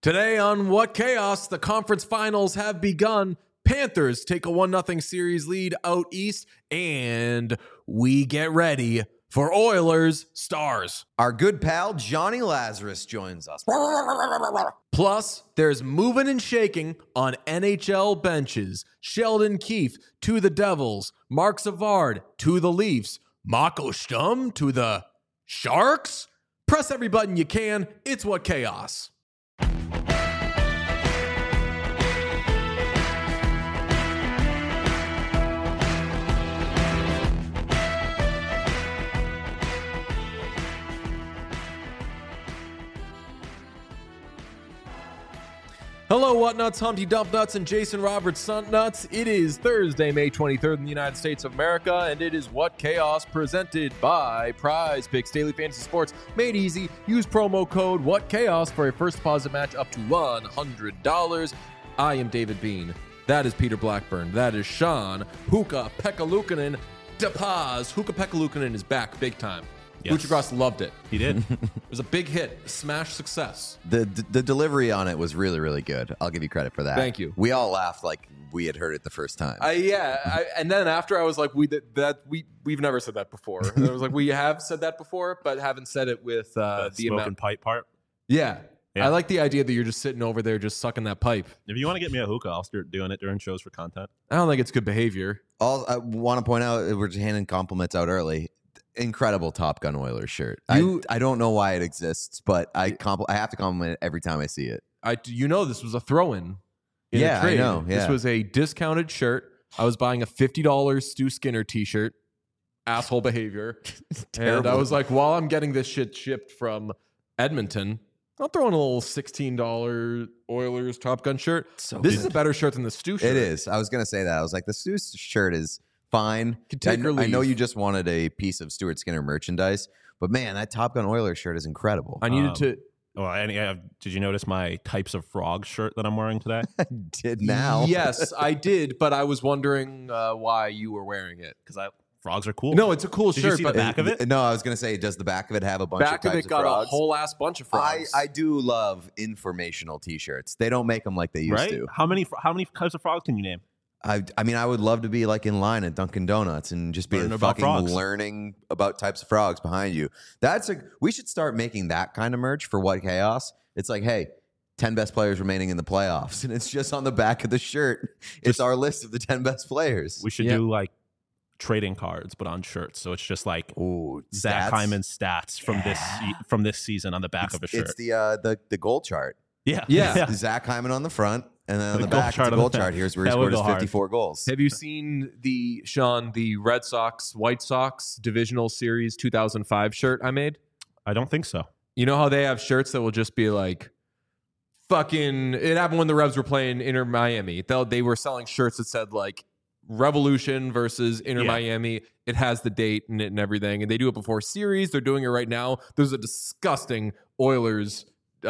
Today on What Chaos, the conference finals have begun. Panthers take a 1-0 series lead out east, and we get ready for Oilers Stars. Our good pal Johnny Lazarus joins us. Plus, there's moving and shaking on NHL benches. Sheldon Keefe to the Devils, Mark Savard to the Leafs, Mako Stum to the Sharks. Press every button you can. It's What Chaos. Hello, Whatnuts, Humpty Dump Nuts, and Jason Roberts Stunt Nuts. It is Thursday, May 23rd in the United States of America, and it is What Chaos presented by Prize Picks Daily Fantasy Sports. Made easy. Use promo code What Chaos for a first deposit match up to $100. I am David Bean. That is Peter Blackburn. That is Sean Hookah-Pekka Luukkonen DePaz. Hookah-Pekka Luukkonen is back big time. Yes. Luchagross loved it. He did. It was a big hit, a smash success. The delivery on it was really, really good. I'll give you credit for that. Thank you. We all laughed like we had heard it the first time. And then after I was like, we've never said that before. And I was like, we have said that before, but haven't said it with the smoke amount. and pipe part. Yeah. Yeah. I like the idea that you're just sitting over there, just sucking that pipe. If you want to get me a hookah, I'll start doing it during shows for content. I don't think it's good behavior. I want to point out, we're just handing compliments out early. Incredible Top Gun Oilers shirt. I don't know why it exists, but I have to compliment it every time I see it. This was a throw-in. Yeah, a trade. I know. Yeah. This was a discounted shirt. I was buying a $50 Stu Skinner t-shirt. Asshole behavior. And I was like, while I'm getting this shit shipped from Edmonton, I'll throw in a little $16 Oilers Top Gun shirt. This is a better shirt than the Stu shirt. It is. I was going to say that. I was like, the Stu shirt is fine. Take or leave. I know you just wanted a piece of Stuart Skinner merchandise, but man, that Top Gun Oilers shirt is incredible. I needed to... Did you notice my Types of Frog shirt that I'm wearing today? I did now. Yes, I did, but I was wondering why you were wearing it. Because frogs are cool. No, it's a cool Did shirt. you see but the back of it? No, I was going to say, does the back of it have a bunch back of of types it got of frogs? a whole ass bunch of frogs. I do love informational T-shirts. They don't make them like they used Right? to. How many types of frogs can you name? I mean, I would love to be like in line at Dunkin' Donuts and just be Learning about fucking frogs. learning about types of frogs behind you. We should start making that kind of merch for What Chaos. It's like, hey, 10 best players remaining in the playoffs, and it's just on the back of the shirt. It's our list of the 10 best players. We should do like trading cards, but on shirts. So it's just like Zach Hyman's stats from this season on the back of a shirt. It's the goal chart. Yeah. Zach Hyman on the front, and then on the goal back, it's the goal chart. Here's where he That scored would his go hard. 54 goals. Have you seen the Red Sox White Sox Divisional Series 2005 shirt I made? I don't think so. You know how they have shirts that will just be like fucking. It happened when the Revs were playing Inter Miami. They were selling shirts that said like Revolution versus Inter Miami. It has the date in it and everything, and they do it before series. They're doing it right now. There's a disgusting Oilers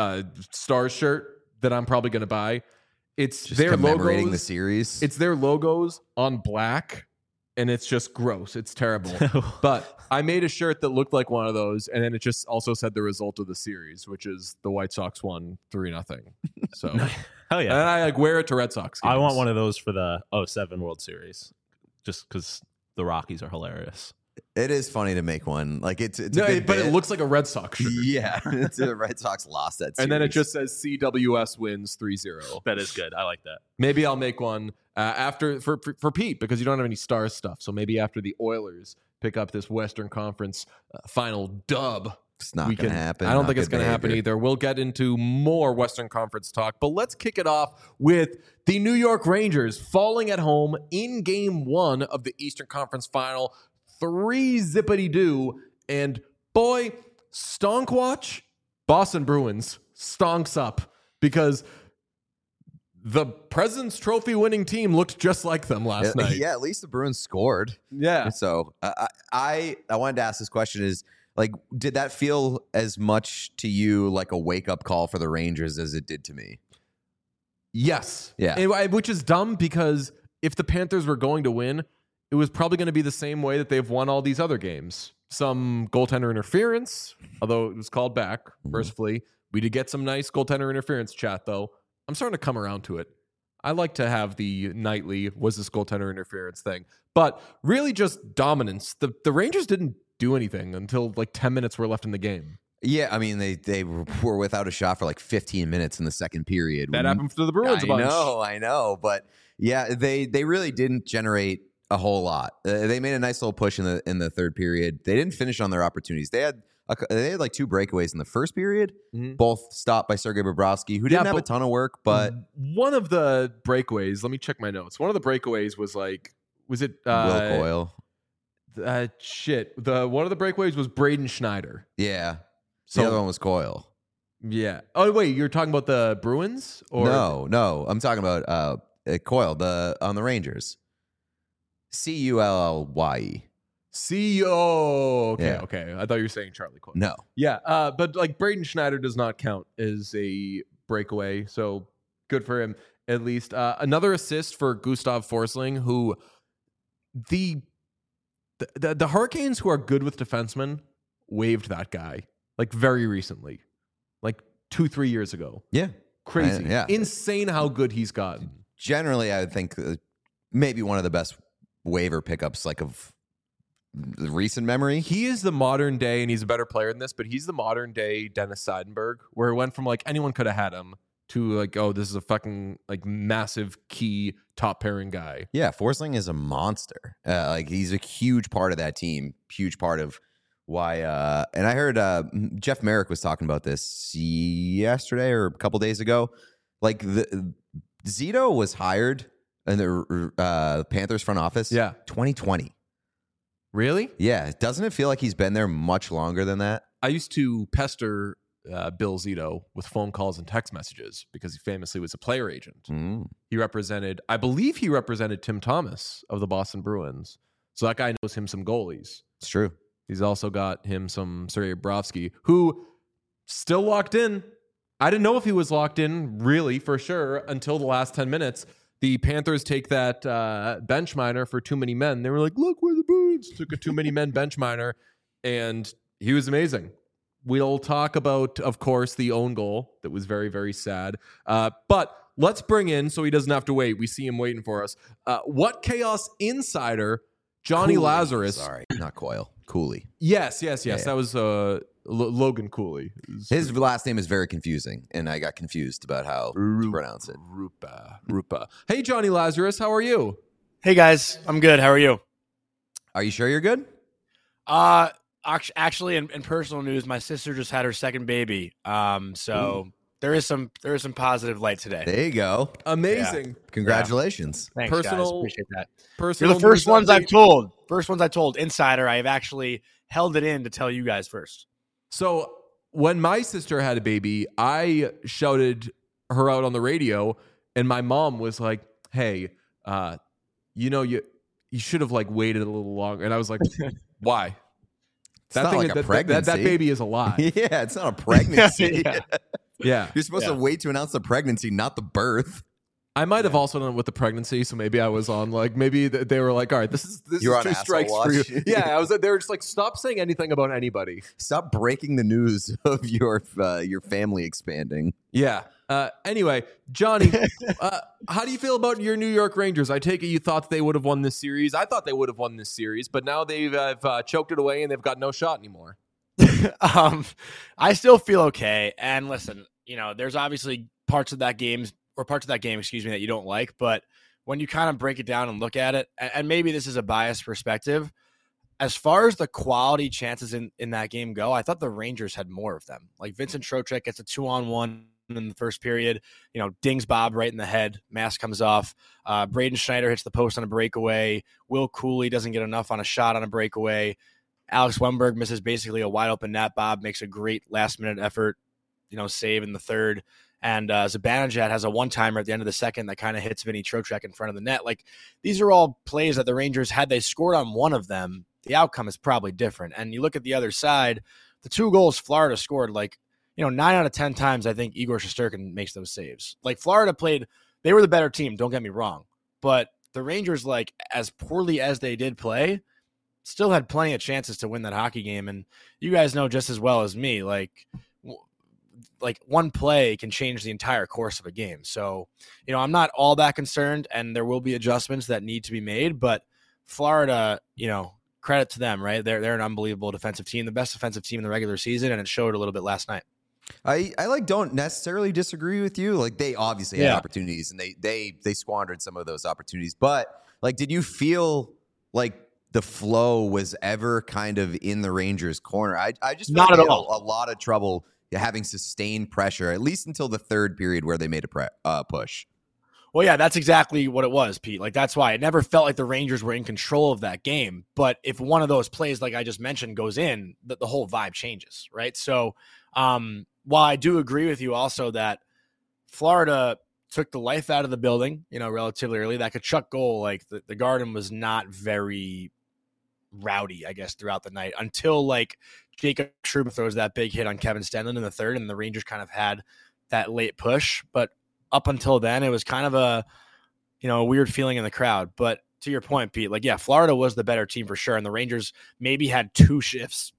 Stars shirt that I'm probably going to buy. It's Just their commemorating logos. the series. It's their logos on black, and it's just gross. It's terrible. But I made a shirt that looked like one of those, and then it just also said the result of the series, which is the White Sox won 3-0. So Hell yeah. and I like wear it to Red Sox games. I want one of those for the 07 World Series, just because the Rockies are hilarious. It is funny to make one. Like it's a No, good but bit. it looks like a Red Sox shirt. Yeah, it's the Red Sox lost that series. And then it just says CWS wins 3-0. That is good. I like that. Maybe I'll make one after for Pete, because you don't have any Stars stuff. So maybe after the Oilers pick up this Western Conference final dub. It's not going to happen. I don't Not think it's good going to happen behavior. either. We'll get into more Western Conference talk, but let's kick it off with the New York Rangers falling at home in Game 1 of the Eastern Conference Final. 3-zippity-doo. And boy, stonk watch, Boston Bruins stonks up, because the President's Trophy winning team looked just like them last night. Yeah, at least the Bruins scored. Yeah. So I wanted to ask this question is, like, did that feel as much to you like a wake-up call for the Rangers as it did to me? Yes. Yeah. Which is dumb, because if the Panthers were going to win, it was probably going to be the same way that they've won all these other games. Some goaltender interference, although it was called back mercifully, We did get some nice goaltender interference chat, though. I'm starting to come around to it. I like to have the nightly was this goaltender interference thing, but really just dominance. The Rangers didn't do anything until like 10 minutes were left in the game. Yeah, I mean, they were without a shot for like 15 minutes in the second period. That happened to the Bruins a bunch. I know. But yeah, they really didn't generate a whole lot. They made a nice little push in the third period. They didn't finish on their opportunities. They had like 2 breakaways in the first period, both stopped by Sergei Bobrovsky, who didn't have a ton of work. But one of the breakaways, let me check my notes. One of the breakaways was it Will Coyle? One of the breakaways was Braden Schneider. Yeah. So the other one was Coyle. Yeah. Oh wait, you're talking about the Bruins? Or No. I'm talking about Coyle on the Rangers. Cullye. Okay. I thought you were saying Charlie Coyle. No. Yeah. But like Braden Schneider does not count as a breakaway, so good for him at least. Another assist for Gustav Forsling, who the Hurricanes, who are good with defensemen, waived that guy like very recently, like 2-3 years ago. Yeah. Crazy. Insane how good he's gotten. Generally, I would think maybe one of the best waiver pickups like of recent memory. He is the modern day, and he's a better player than this, but he's the modern day Dennis Seidenberg, where it went from like anyone could have had him to like, oh, this is a fucking like massive key top pairing guy. Yeah, Forsling is a monster. Like he's a huge part of that team, huge part of why. And I heard Jeff Merrick was talking about this yesterday or a couple days ago. Like Zito was hired in the Panthers front office. 2020. Really? Yeah. Doesn't it feel like he's been there much longer than that? I used to pester Bill Zito with phone calls and text messages because he famously was a player agent. I believe he represented Tim Thomas of the Boston Bruins. So that guy knows him some goalies. It's true. He's also got him some Sergei Bobrovsky, who still locked in. I didn't know if he was locked in really for sure until the last 10 minutes. The Panthers take that bench minor for too many men. They were like, look, we're the Bruins. Took a too many men bench minor, and he was amazing. We'll talk about, of course, the own goal that was very, very sad. But let's bring in, so he doesn't have to wait. We see him waiting for us. What Chaos insider, Johnny Cooley. Lazarus. Sorry, not Coyle. Cooley. Yes. Yeah. That was Logan Cooley. His last name is very confusing, and I got confused about how to pronounce it. Rupa. Hey, Johnny Lazarus, how are you? Hey, guys. I'm good. How are you? Are you sure you're good? Actually, in personal news, my sister just had her second baby. So there is some positive light today. There you go. Amazing. Yeah. Congratulations. Thanks, personal, guys. Appreciate that. Personal You're the first ones I've told. Insider, I have actually held it in to tell you guys first. So when my sister had a baby, I shouted her out on the radio, and my mom was like, hey, you should have like waited a little longer. And I was like, why? It's not like a pregnancy. That baby is alive. Yeah, it's not a pregnancy. Yeah. You're supposed to wait to announce the pregnancy, not the birth. I might have also done it with the pregnancy, so maybe I was on like maybe they were like, all right, this is 2 strikes for you. Yeah, they were just like, stop saying anything about anybody. Stop breaking the news of your family expanding. Yeah. Anyway, Johnny, how do you feel about your New York Rangers? I take it you thought they would have won this series. I thought they would have won this series, but now they've choked it away and they've got no shot anymore. I still feel okay. And listen, there's obviously parts of that game, that you don't like, but when you kind of break it down and look at it, and maybe this is a biased perspective, as far as the quality chances in that game go, I thought the Rangers had more of them. Like Vincent Trocheck gets a 2-on-1 in the first period, dings Bob right in the head, mask comes off. Braden Schneider hits the post on a breakaway. Will Cooley doesn't get enough on a shot on a breakaway. Alex Wemberg misses basically a wide open net. Bob makes a great last minute effort, save in the third. And Zibanejad has a one-timer at the end of the second that kind of hits Vinny Trocheck in front of the net. Like, these are all plays that the Rangers, had they scored on one of them, the outcome is probably different. And you look at the other side, the 2 goals Florida scored, 9 out of 10 times, I think Igor Shesterkin makes those saves. Like, Florida played, they were the better team, don't get me wrong. But the Rangers, as poorly as they did play, still had plenty of chances to win that hockey game. And you guys know just as well as me, like one play can change the entire course of a game. So, I'm not all that concerned, and there will be adjustments that need to be made, but Florida, credit to them, right? They're an unbelievable defensive team, the best defensive team in the regular season, and it showed a little bit last night. I don't necessarily disagree with you. Like, they obviously had opportunities, and they squandered some of those opportunities. But like, did you feel like the flow was ever kind of in the Rangers' corner? I just not at all. A lot of trouble having sustained pressure, at least until the third period where they made a push. Well, yeah, that's exactly what it was, Pete. Like, that's why it never felt like the Rangers were in control of that game. But if one of those plays, like I just mentioned, goes in, the whole vibe changes, right? So while I do agree with you also that Florida took the life out of the building, relatively early, that Tkachuk goal, like the Garden was not very rowdy, I guess, throughout the night until like Jacob Trouba throws that big hit on Kevin Stenlund in the third, and the Rangers kind of had that late push. But up until then, it was kind of a weird feeling in the crowd. But to your point, Pete, like, yeah, Florida was the better team for sure, and the Rangers maybe had two shifts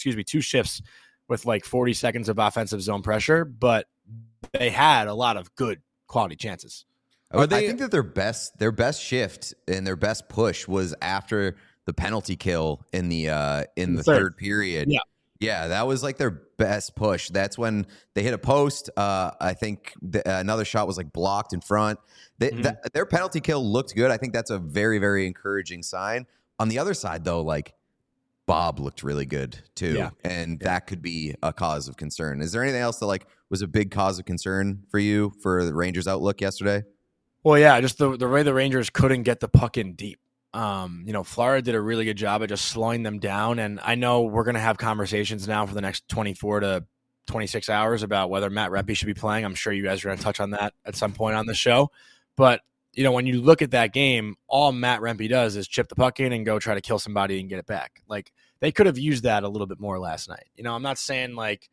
with like 40 seconds of offensive zone pressure, but they had a lot of good quality chances. I think that their best shift and their best push was after the penalty kill in the third period. Yeah, that was like their best push. That's when they hit a post. I think another shot was like blocked in front. Their penalty kill looked good. I think that's a very, very encouraging sign. On the other side, though, like, Bob looked really good too, and that could be a cause of concern. Is there anything else that like was a big cause of concern for you for the Rangers' outlook yesterday? Well, yeah, just the way the Rangers couldn't get the puck in deep. Florida did a really good job of just slowing them down. And I know we're going to have conversations now for the next 24 to 26 hours about whether Matt Rempe should be playing. I'm sure you guys are going to touch on that at some point on the show. But, when you look at that game, all Matt Rempe does is chip the puck in and go try to kill somebody and get it back. Like, they could have used that a little bit more last night. I'm not saying like,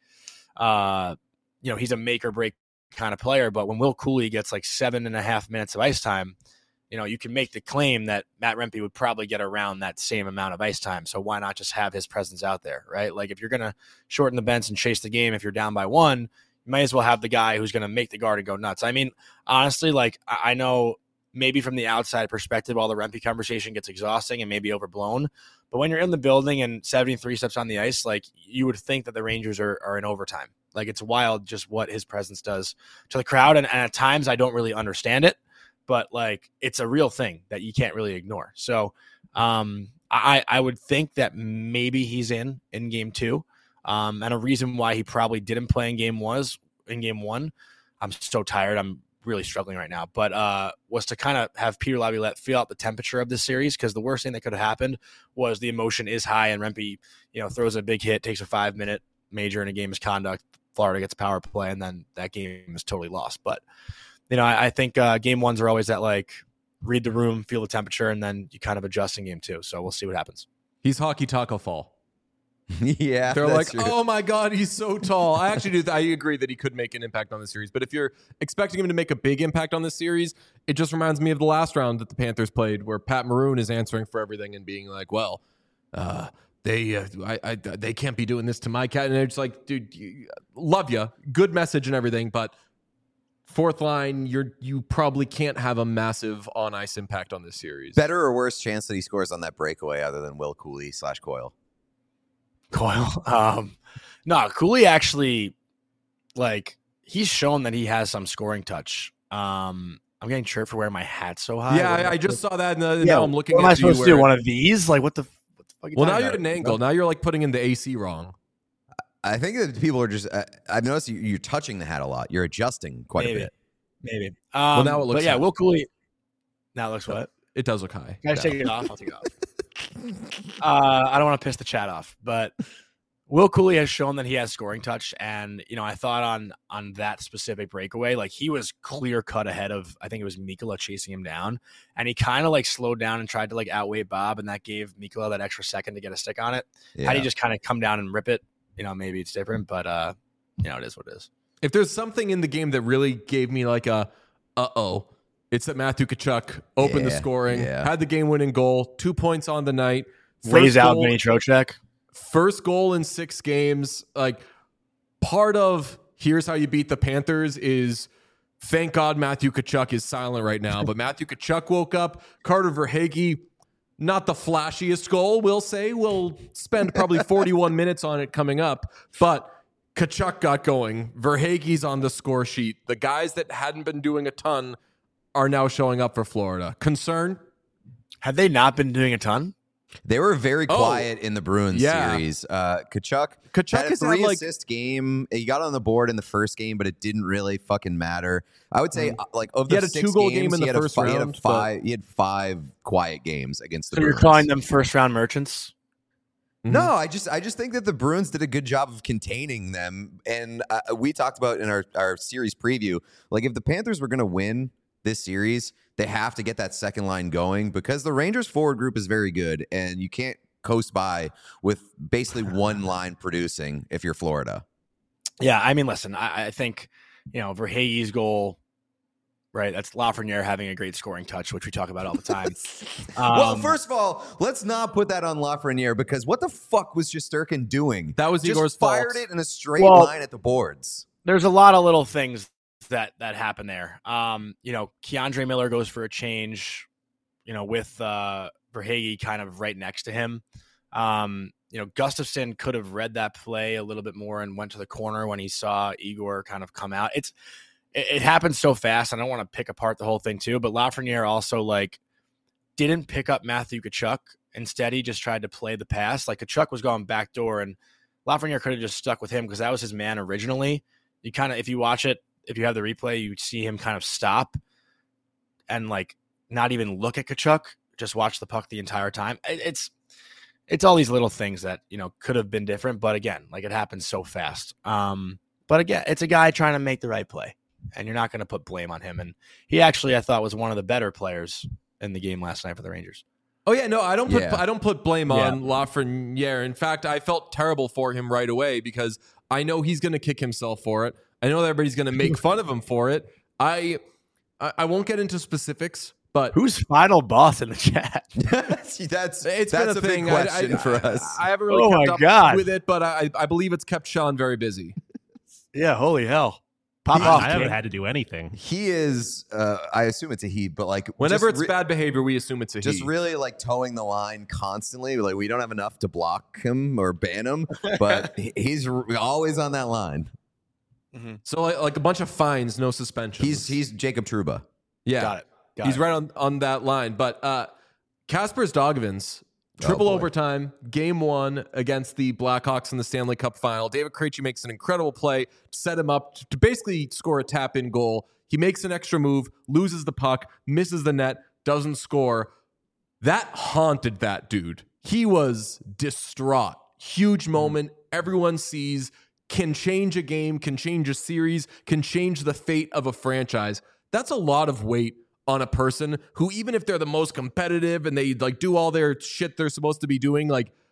he's a make or break kind of player, but when Will Cooley gets like 7.5 minutes of ice time, you can make the claim that Matt Rempe would probably get around that same amount of ice time. So why not just have his presence out there, right? Like, if you're going to shorten the bench and chase the game, if you're down by one, you might as well have the guy who's going to make the Garden go nuts. I mean, honestly, like, I know maybe from the outside perspective, all the Rempe conversation gets exhausting and maybe overblown. But when you're in the building and 73 steps on the ice, like, you would think that the Rangers are in overtime. Like, it's wild just what his presence does to the crowd. And at times I don't really understand it, but like, it's a real thing that you can't really ignore. So I would think that maybe he's in game two. And a reason why he probably didn't play in game one, I'm so tired. I'm really struggling right now, but was to kind of have Peter Laviolette feel out the temperature of this series, because the worst thing that could have happened was the emotion is high and Rempe, throws a big hit, takes a 5-minute major in a game misconduct, Florida gets a power play, and then that game is totally lost. But I think game ones are always that, like, read the room, feel the temperature, and then you kind of adjust in game two. So we'll see what happens. He's hockey taco fall. Yeah, they're like, true. Oh my God, he's so tall. I actually do. I agree that he could make an impact on the series. But if you're expecting him to make a big impact on this series, it just reminds me of the last round that the Panthers played, where Pat Maroon is answering for everything and being like, "Well, they can't be doing this to my cat." And it's like, dude, love you, good message and everything, but fourth line, you probably can't have a massive on ice impact on this series. Better or worse chance that he scores on that breakaway other than Will Cooley / Coyle? No, Cooley actually, like, he's shown that he has some scoring touch. I'm getting chirped for wearing my hat so high. Yeah, I just saw that, and now I'm looking at you. What am I supposed to do? One of these? Like, what the fuck? Well, now you're at an angle. Now you're like putting in the AC wrong. I think that people are just. I've noticed you're touching the hat a lot. You're adjusting quite a bit. Maybe. Well, now it looks. But yeah, high. Will Cooley. Now it looks what? It does look high. Can I take it off? I'll take it off. I don't want to piss the chat off, but Will Cooley has shown that he has scoring touch, and I thought on that specific breakaway, like, he was clear cut ahead of, I think it was Mikkola chasing him down, and he kind of like slowed down and tried to like outweigh Bob, and that gave Mikkola that extra second to get a stick on it. Yeah. Had he just kind of come down and rip it, maybe it's different, but it is what it is. If there's something in the game that really gave me like a it's that Matthew Tkachuk opened the scoring, had the game-winning goal, 2 points on the night. Lays out Vinny Trocheck. First goal in 6 games. Like, part of here's how you beat the Panthers is, thank God Matthew Tkachuk is silent right now, but Matthew Tkachuk woke up. Carter Verhaeghe, not the flashiest goal, we'll say. We'll spend probably 41 minutes on it coming up, but Tkachuk got going. Verhaeghe's on the score sheet. The guys that hadn't been doing a ton are now showing up for Florida. Concern? Have they not been doing a ton? They were very quiet in the Bruins series. Tkachuk had a 3-assist game. He got on the board in the first game, but it didn't really fucking matter. I would say, like, of the 6 2-goal games, game in the first round. He had 5 quiet games against the Bruins. So you're calling them first-round merchants? No, I just think that the Bruins did a good job of containing them. And we talked about in our series preview, like, if the Panthers were going to win this series, they have to get that second line going because the Rangers forward group is very good, and you can't coast by with basically one line producing if you're Florida. Yeah, I mean, listen, I think, Verhaeghe's goal, right? That's Lafreniere having a great scoring touch, which we talk about all the time. Well, first of all, let's not put that on Lafreniere because what the fuck was Shesterkin doing? That was just Igor's fired fault. it in a straight line at the boards. There's a lot of little things that happen there. Keandre Miller goes for a change, with Verhaeghe kind of right next to him. Gustafsson could have read that play a little bit more and went to the corner when he saw Igor kind of come out. It happened so fast. I don't want to pick apart the whole thing too, but Lafreniere also didn't pick up Matthew Tkachuk. Instead, he just tried to play the pass. Like, Tkachuk was going backdoor, and Lafreniere could have just stuck with him because that was his man originally. You kind of, if you watch it, if you have the replay, you see him kind of stop and not even look at Tkachuk, just watch the puck the entire time. It's all these little things that, could have been different. But again, it happens so fast. But again, it's a guy trying to make the right play, and you're not going to put blame on him. And he actually, I thought, was one of the better players in the game last night for the Rangers. Oh yeah, no, I don't put blame on Lafreniere. In fact, I felt terrible for him right away because I know he's going to kick himself for it. I know that everybody's going to make fun of him for it. I won't get into specifics, but who's final boss in the chat? That's been a big question for us. I haven't really kept up with it, but I believe it's kept Sean very busy. Yeah, holy hell. Pop off. I haven't had to do anything. He is, I assume it's a he, but whenever it's bad behavior, we assume it's a he. Just really towing the line constantly. We don't have enough to block him or ban him, but he's always on that line. Mm-hmm. So a bunch of fines, no suspensions. He's Jacob Trouba. Yeah, got it. He's right on that line. But Kaspers Daugavins, triple overtime, game 1 against the Blackhawks in the Stanley Cup final. David Krejci makes an incredible play to set him up to basically score a tap-in goal. He makes an extra move, loses the puck, misses the net, doesn't score. That haunted that dude. He was distraught. Huge moment. Everyone sees. Can change a game, can change a series, can change the fate of a franchise. That's a lot of weight on a person who, even if they're the most competitive and they do all their shit they're supposed to be doing,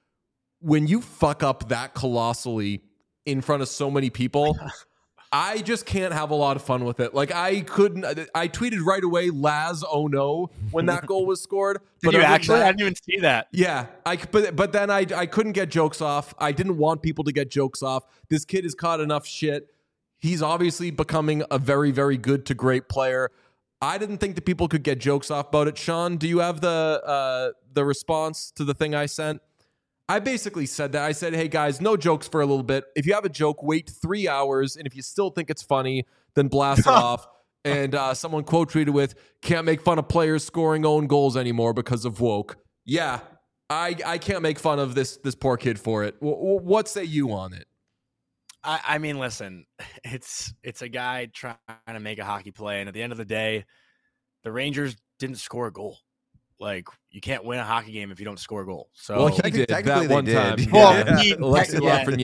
when you fuck up that colossally in front of so many people, I just can't have a lot of fun with it. I tweeted right away, Laz, oh no, when that goal was scored. Did you actually? I didn't even see that. Yeah, but then I couldn't get jokes off. I didn't want people to get jokes off. This kid has caught enough shit. He's obviously becoming a very, very good to great player. I didn't think that people could get jokes off about it. Sean, do you have the response to the thing I sent? I basically said that. I said, hey, guys, no jokes for a little bit. If you have a joke, wait 3 hours. And if you still think it's funny, then blast it off. And someone quote tweeted with, can't make fun of players scoring own goals anymore because of woke. Yeah, I can't make fun of this poor kid for it. What say you on it? I mean, listen, it's a guy trying to make a hockey play. And at the end of the day, the Rangers didn't score a goal. You can't win a hockey game if you don't score a goal. So he did that one time. Well,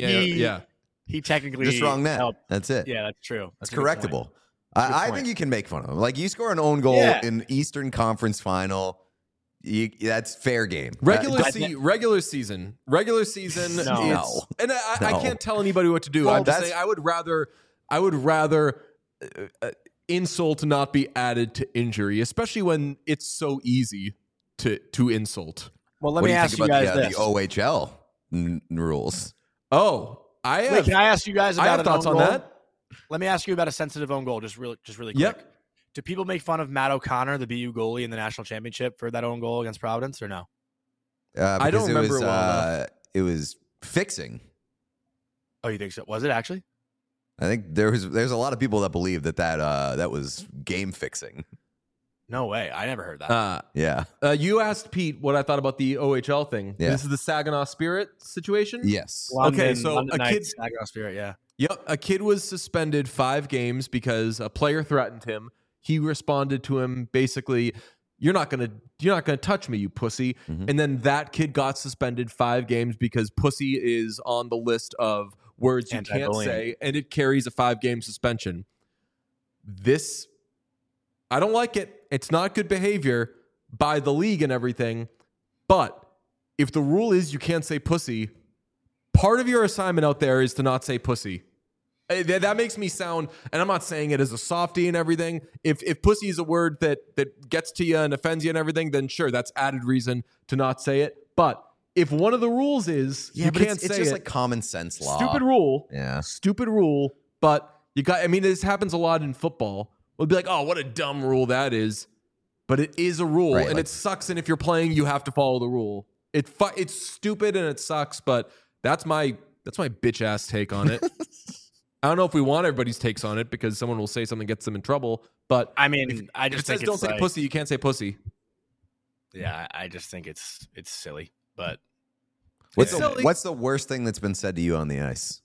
he technically just wrong net. Helped. That's it. Yeah, that's true. It's correctable. I think you can make fun of him. You score an own goal in Eastern Conference Final. That's fair game. Regular season. No. And I can't tell anybody what to do. I'm just saying I would rather insult not be added to injury, especially when it's so easy to insult. Well, let me ask you guys the OHL rules. Oh, can I ask you guys about I have thoughts on that. Let me ask you about a sensitive own goal, just really quick. Yep. Do people make fun of Matt O'Connor, the BU goalie in the national championship, for that own goal against Providence, or no? I don't remember it well enough. It was fixing. Oh, you think so? Was it actually? I think there's a lot of people that believe that was game fixing. No way. I never heard that. Yeah. You asked Pete what I thought about the OHL thing. Yeah. This is the Saginaw Spirit situation? Yes. Okay, so London a Knights, kid- Saginaw Spirit, yeah. Yep. A kid was suspended 5 games because a player threatened him. He responded to him basically, you're not gonna touch me, you pussy. Mm-hmm. And then that kid got suspended 5 games because pussy is on the list of words you can't say, and it carries a 5-game suspension. This, I don't like it. It's not good behavior by the league and everything. But if the rule is you can't say pussy, part of your assignment out there is to not say pussy. That makes me sound, and I'm not saying it as a softie and everything. If pussy is a word that gets to you and offends you and everything, then sure, that's added reason to not say it. But if one of the rules is you can't say it's just it, like common sense law. stupid rule. Yeah. Stupid rule. But you got, I mean, this happens a lot in football. We'll be like, oh, what a dumb rule that is. But it is a rule, Right, and like- it sucks. And if you're playing, you have to follow the rule. It's stupid and it sucks, but that's my bitch ass take on it. I don't know if we want everybody's takes on it because someone will say something gets them in trouble. But I mean, I if just it says think don't it's say like, pussy, you can't say pussy. Yeah, I just think it's silly. But What's the worst thing that's been said to you on the ice?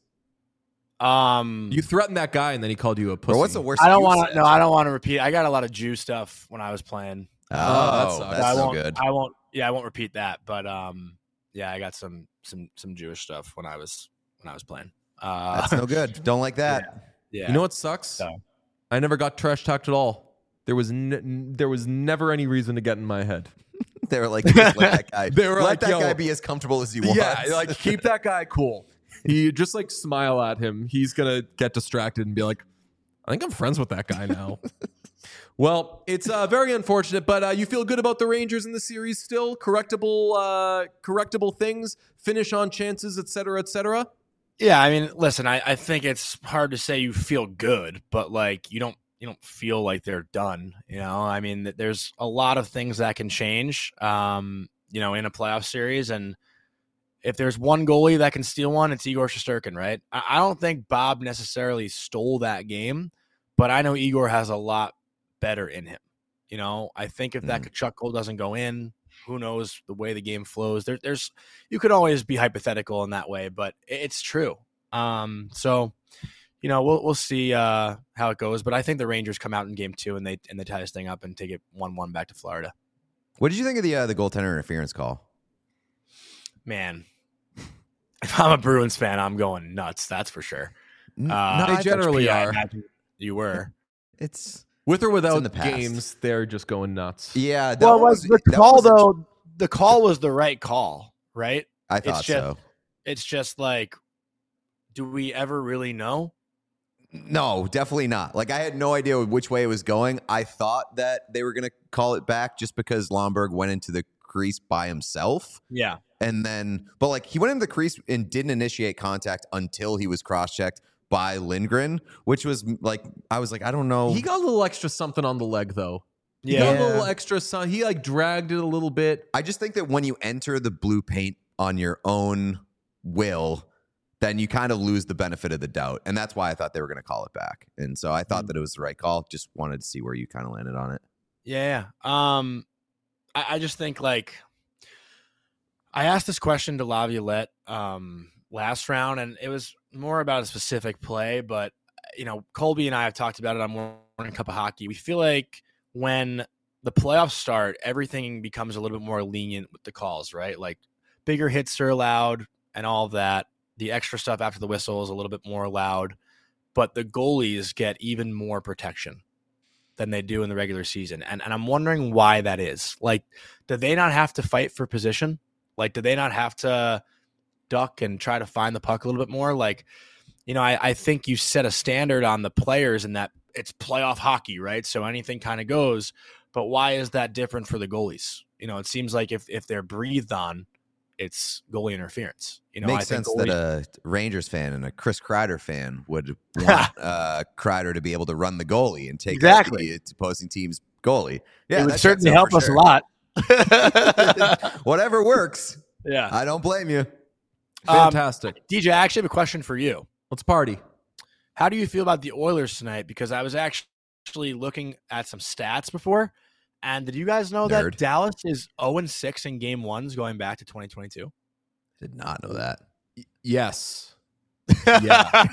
You threatened that guy and then he called you a pussy. Or what's the worst? I don't you want said? to. No, I don't want to repeat. I got a lot of Jew stuff when I was playing. that Oh, sucks. that's I so won't. good. I won't. Yeah, I won't repeat that. But yeah, I got some Jewish stuff when I was playing. That's no good. Don't like that. Yeah. You know what sucks? So. I never got trash talked at all. There was never any reason to get in my head. They were like, just let that guy. They were let like, that yo, guy be as comfortable as he wants. Yeah, like keep that guy cool. You just like smile at him. He's gonna get distracted and be like, I think I'm friends with that guy now. Well, it's very unfortunate, but you feel good about the Rangers in the series still? Correctable things, finish on chances, et cetera, et cetera? Yeah, I mean, listen, I think it's hard to say you feel good, but like you don't feel like they're done. You know, I mean, there's a lot of things that can change. In a playoff series, and if there's one goalie that can steal one, it's Igor Shesterkin, right? I don't think Bob necessarily stole that game, but I know Igor has a lot better in him. You know, I think if that Tkachuk goal doesn't go in, who knows the way the game flows. There's you could always be hypothetical in that way, but it's true. So, we'll see how it goes. But I think the Rangers come out in game 2 and they tie this thing up and take it 1-1 back to Florida. What did you think of the goaltender interference call? Man, if I'm a Bruins fan, I'm going nuts. That's for sure. They generally I are. imagine you were. It's With or without in the past. games, they're just going nuts. yeah. Well, was the that call was a- though? The call was the right call, right? I thought so. It's just like, do we ever really know? No, definitely not. Like I had no idea which way it was going. I thought that they were going to call it back just because Lomberg went into the crease by himself. Yeah. And then, but like he went into the crease and didn't initiate contact until he was cross-checked by Lindgren, which was like, I was like, I don't know. He got a little extra something on the leg, though. He Yeah. got a little extra sun. He like dragged it a little bit. I just think that when you enter the blue paint on your own will, then you kind of lose the benefit of the doubt. And that's why I thought they were going to call it back. And so I thought that it was the right call. Just wanted to see where you kind of landed on it. Yeah. I just think like I asked this question to Laviolette last round, and it was more about a specific play. But Colby and I have talked about it on Morning Cup of Hockey. We feel like when the playoffs start, everything becomes a little bit more lenient with the calls, right? Like bigger hits are allowed and all of that. The extra stuff after the whistle is a little bit more allowed, but the goalies get even more protection than they do in the regular season. And I'm wondering why that is. Like, do they not have to fight for position? Like, do they not have to duck and try to find the puck a little bit more? Like, I think you set a standard on the players in that it's playoff hockey, right? So anything kind of goes. But why is that different for the goalies? It seems like if they're breathed on, it's goalie interference. Makes sense that a Rangers fan and a Chris Kreider fan would want Kreider to be able to run the goalie and take out the opposing team's goalie. Yeah, it would certainly help us a lot. Whatever works. Yeah, I don't blame you. Fantastic. DJ, I actually have a question for you. Let's party. How do you feel about the Oilers tonight? Because I was actually looking at some stats before, and did you guys know that Dallas is 0-6 in game ones going back to 2022? Did not know that. Yes. Yeah.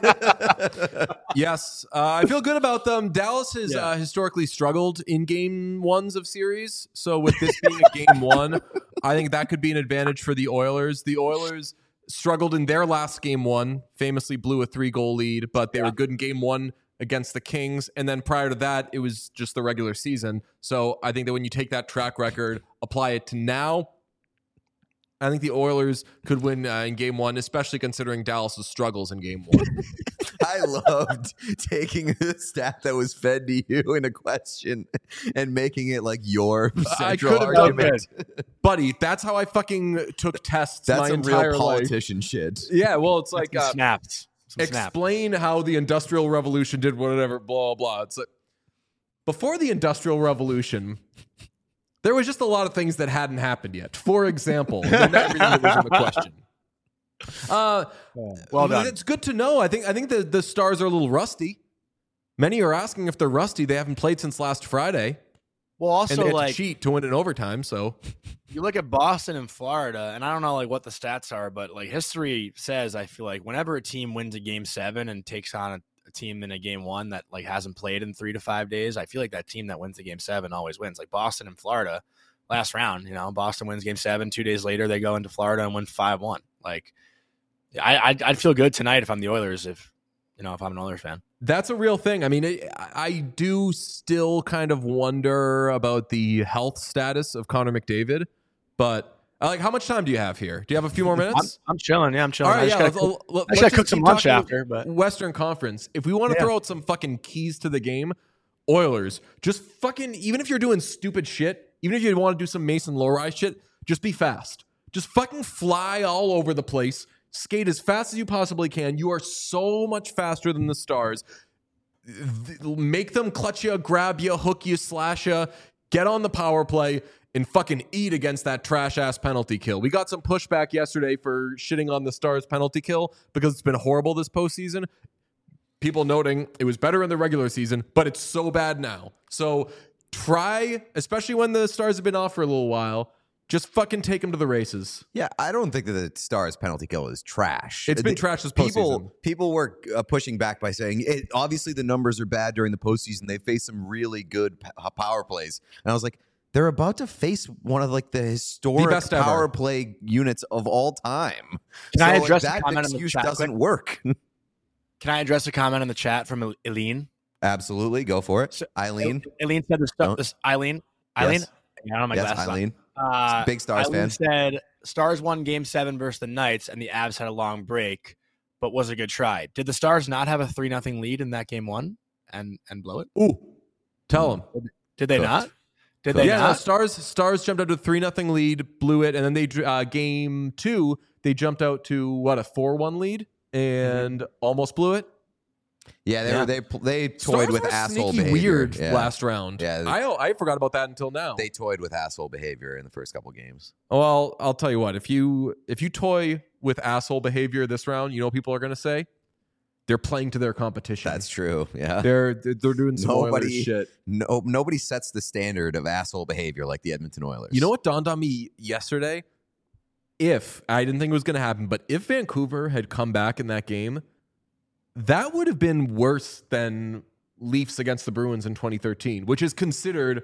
Yes. I feel good about them. Dallas has historically struggled in game ones of series. So with this being a game one, I think that could be an advantage for the Oilers. The Oilers struggled in their last game one, famously blew a 3-goal lead, but they were good in game one against the Kings. And then prior to that, it was just the regular season. So I think that when you take that track record, apply it to now, I think the Oilers could win in game one, especially considering Dallas's struggles in game one. I loved taking a stat that was fed to you in a question and making it like your central argument. Buddy, that's how I fucking took tests. That's my some entire real politician life. shit. Yeah, well, it's like snaps. Explain how the Industrial Revolution did whatever, blah, blah. It's like before the Industrial Revolution, there was just a lot of things that hadn't happened yet. For example, not everything that was in the question. Well done. It's good to know. I think the Stars are a little rusty. Many are asking if they're rusty. They haven't played since last Friday. Well, also, and they had like, to cheat to win in overtime. So you look at Boston and Florida, and I don't know like what the stats are, but like history says, I feel like whenever a team wins a game 7 and takes on a team in a game 1 that like hasn't played in 3 to 5 days, I feel like that team that wins the game 7 always wins. Like Boston and Florida last round, Boston wins game 7. 2 days later, they go into Florida and win 5-1. Like I'd feel good tonight if I'm the Oilers, if I'm an Oilers fan. That's a real thing. I mean, I do still kind of wonder about the health status of Connor McDavid, but like, how much time do you have here? Do you have a few more minutes? I'm chilling. Yeah, I'm chilling. All right, I just gotta cook some lunch after. But Western Conference, if we want to throw out some fucking keys to the game, Oilers, just fucking, even if you're doing stupid shit, even if you want to do some Mason Lohrei shit, just be fast. Just fucking fly all over the place. Skate as fast as you possibly can. You are so much faster than the Stars. Make them clutch you, grab you, hook you, slash you, get on the power play, and fucking eat against that trash-ass penalty kill. We got some pushback yesterday for shitting on the Stars' penalty kill because it's been horrible this postseason. People noting it was better in the regular season, but it's so bad now. So try, especially when the Stars have been off for a little while, just fucking take them to the races. Yeah, I don't think that the Stars penalty kill is trash. It's been trash this postseason. People were pushing back by saying, obviously the numbers are bad during the postseason. They faced some really good power plays. And I was like, they're about to face one of like the historic power play units of all time. Can I address that excuse doesn't work. Can I address a comment in the chat from Eileen? Absolutely, go for it. So, Eileen said this stuff. Eileen. Yes. I don't have my glasses Eileen. On. Big Stars Eileen fan. Said Stars won Game 7 versus the Knights, and the Avs had a long break, but was a good try. Did the Stars not have a 3-0 lead in that Game 1 and blow it? Ooh, tell them. Did they not? Did they not? No, Stars jumped out to a 3-0 lead, blew it, and then they Game 2 they jumped out to what, a 4-1 lead and almost blew it. Yeah, they toyed Stars with were asshole sneaky behavior. Weird last round. Yeah, I forgot about that until now. They toyed with asshole behavior in the first couple games. Well, I'll tell you what. If you toy with asshole behavior this round, you know what people are going to say? They're playing to their competition. That's true. Yeah, they're doing some Oilers shit. Nobody sets the standard of asshole behavior like the Edmonton Oilers. You know what dawned on me yesterday? If I didn't think it was going to happen, but if Vancouver had come back in that game, that would have been worse than Leafs against the Bruins in 2013, which is considered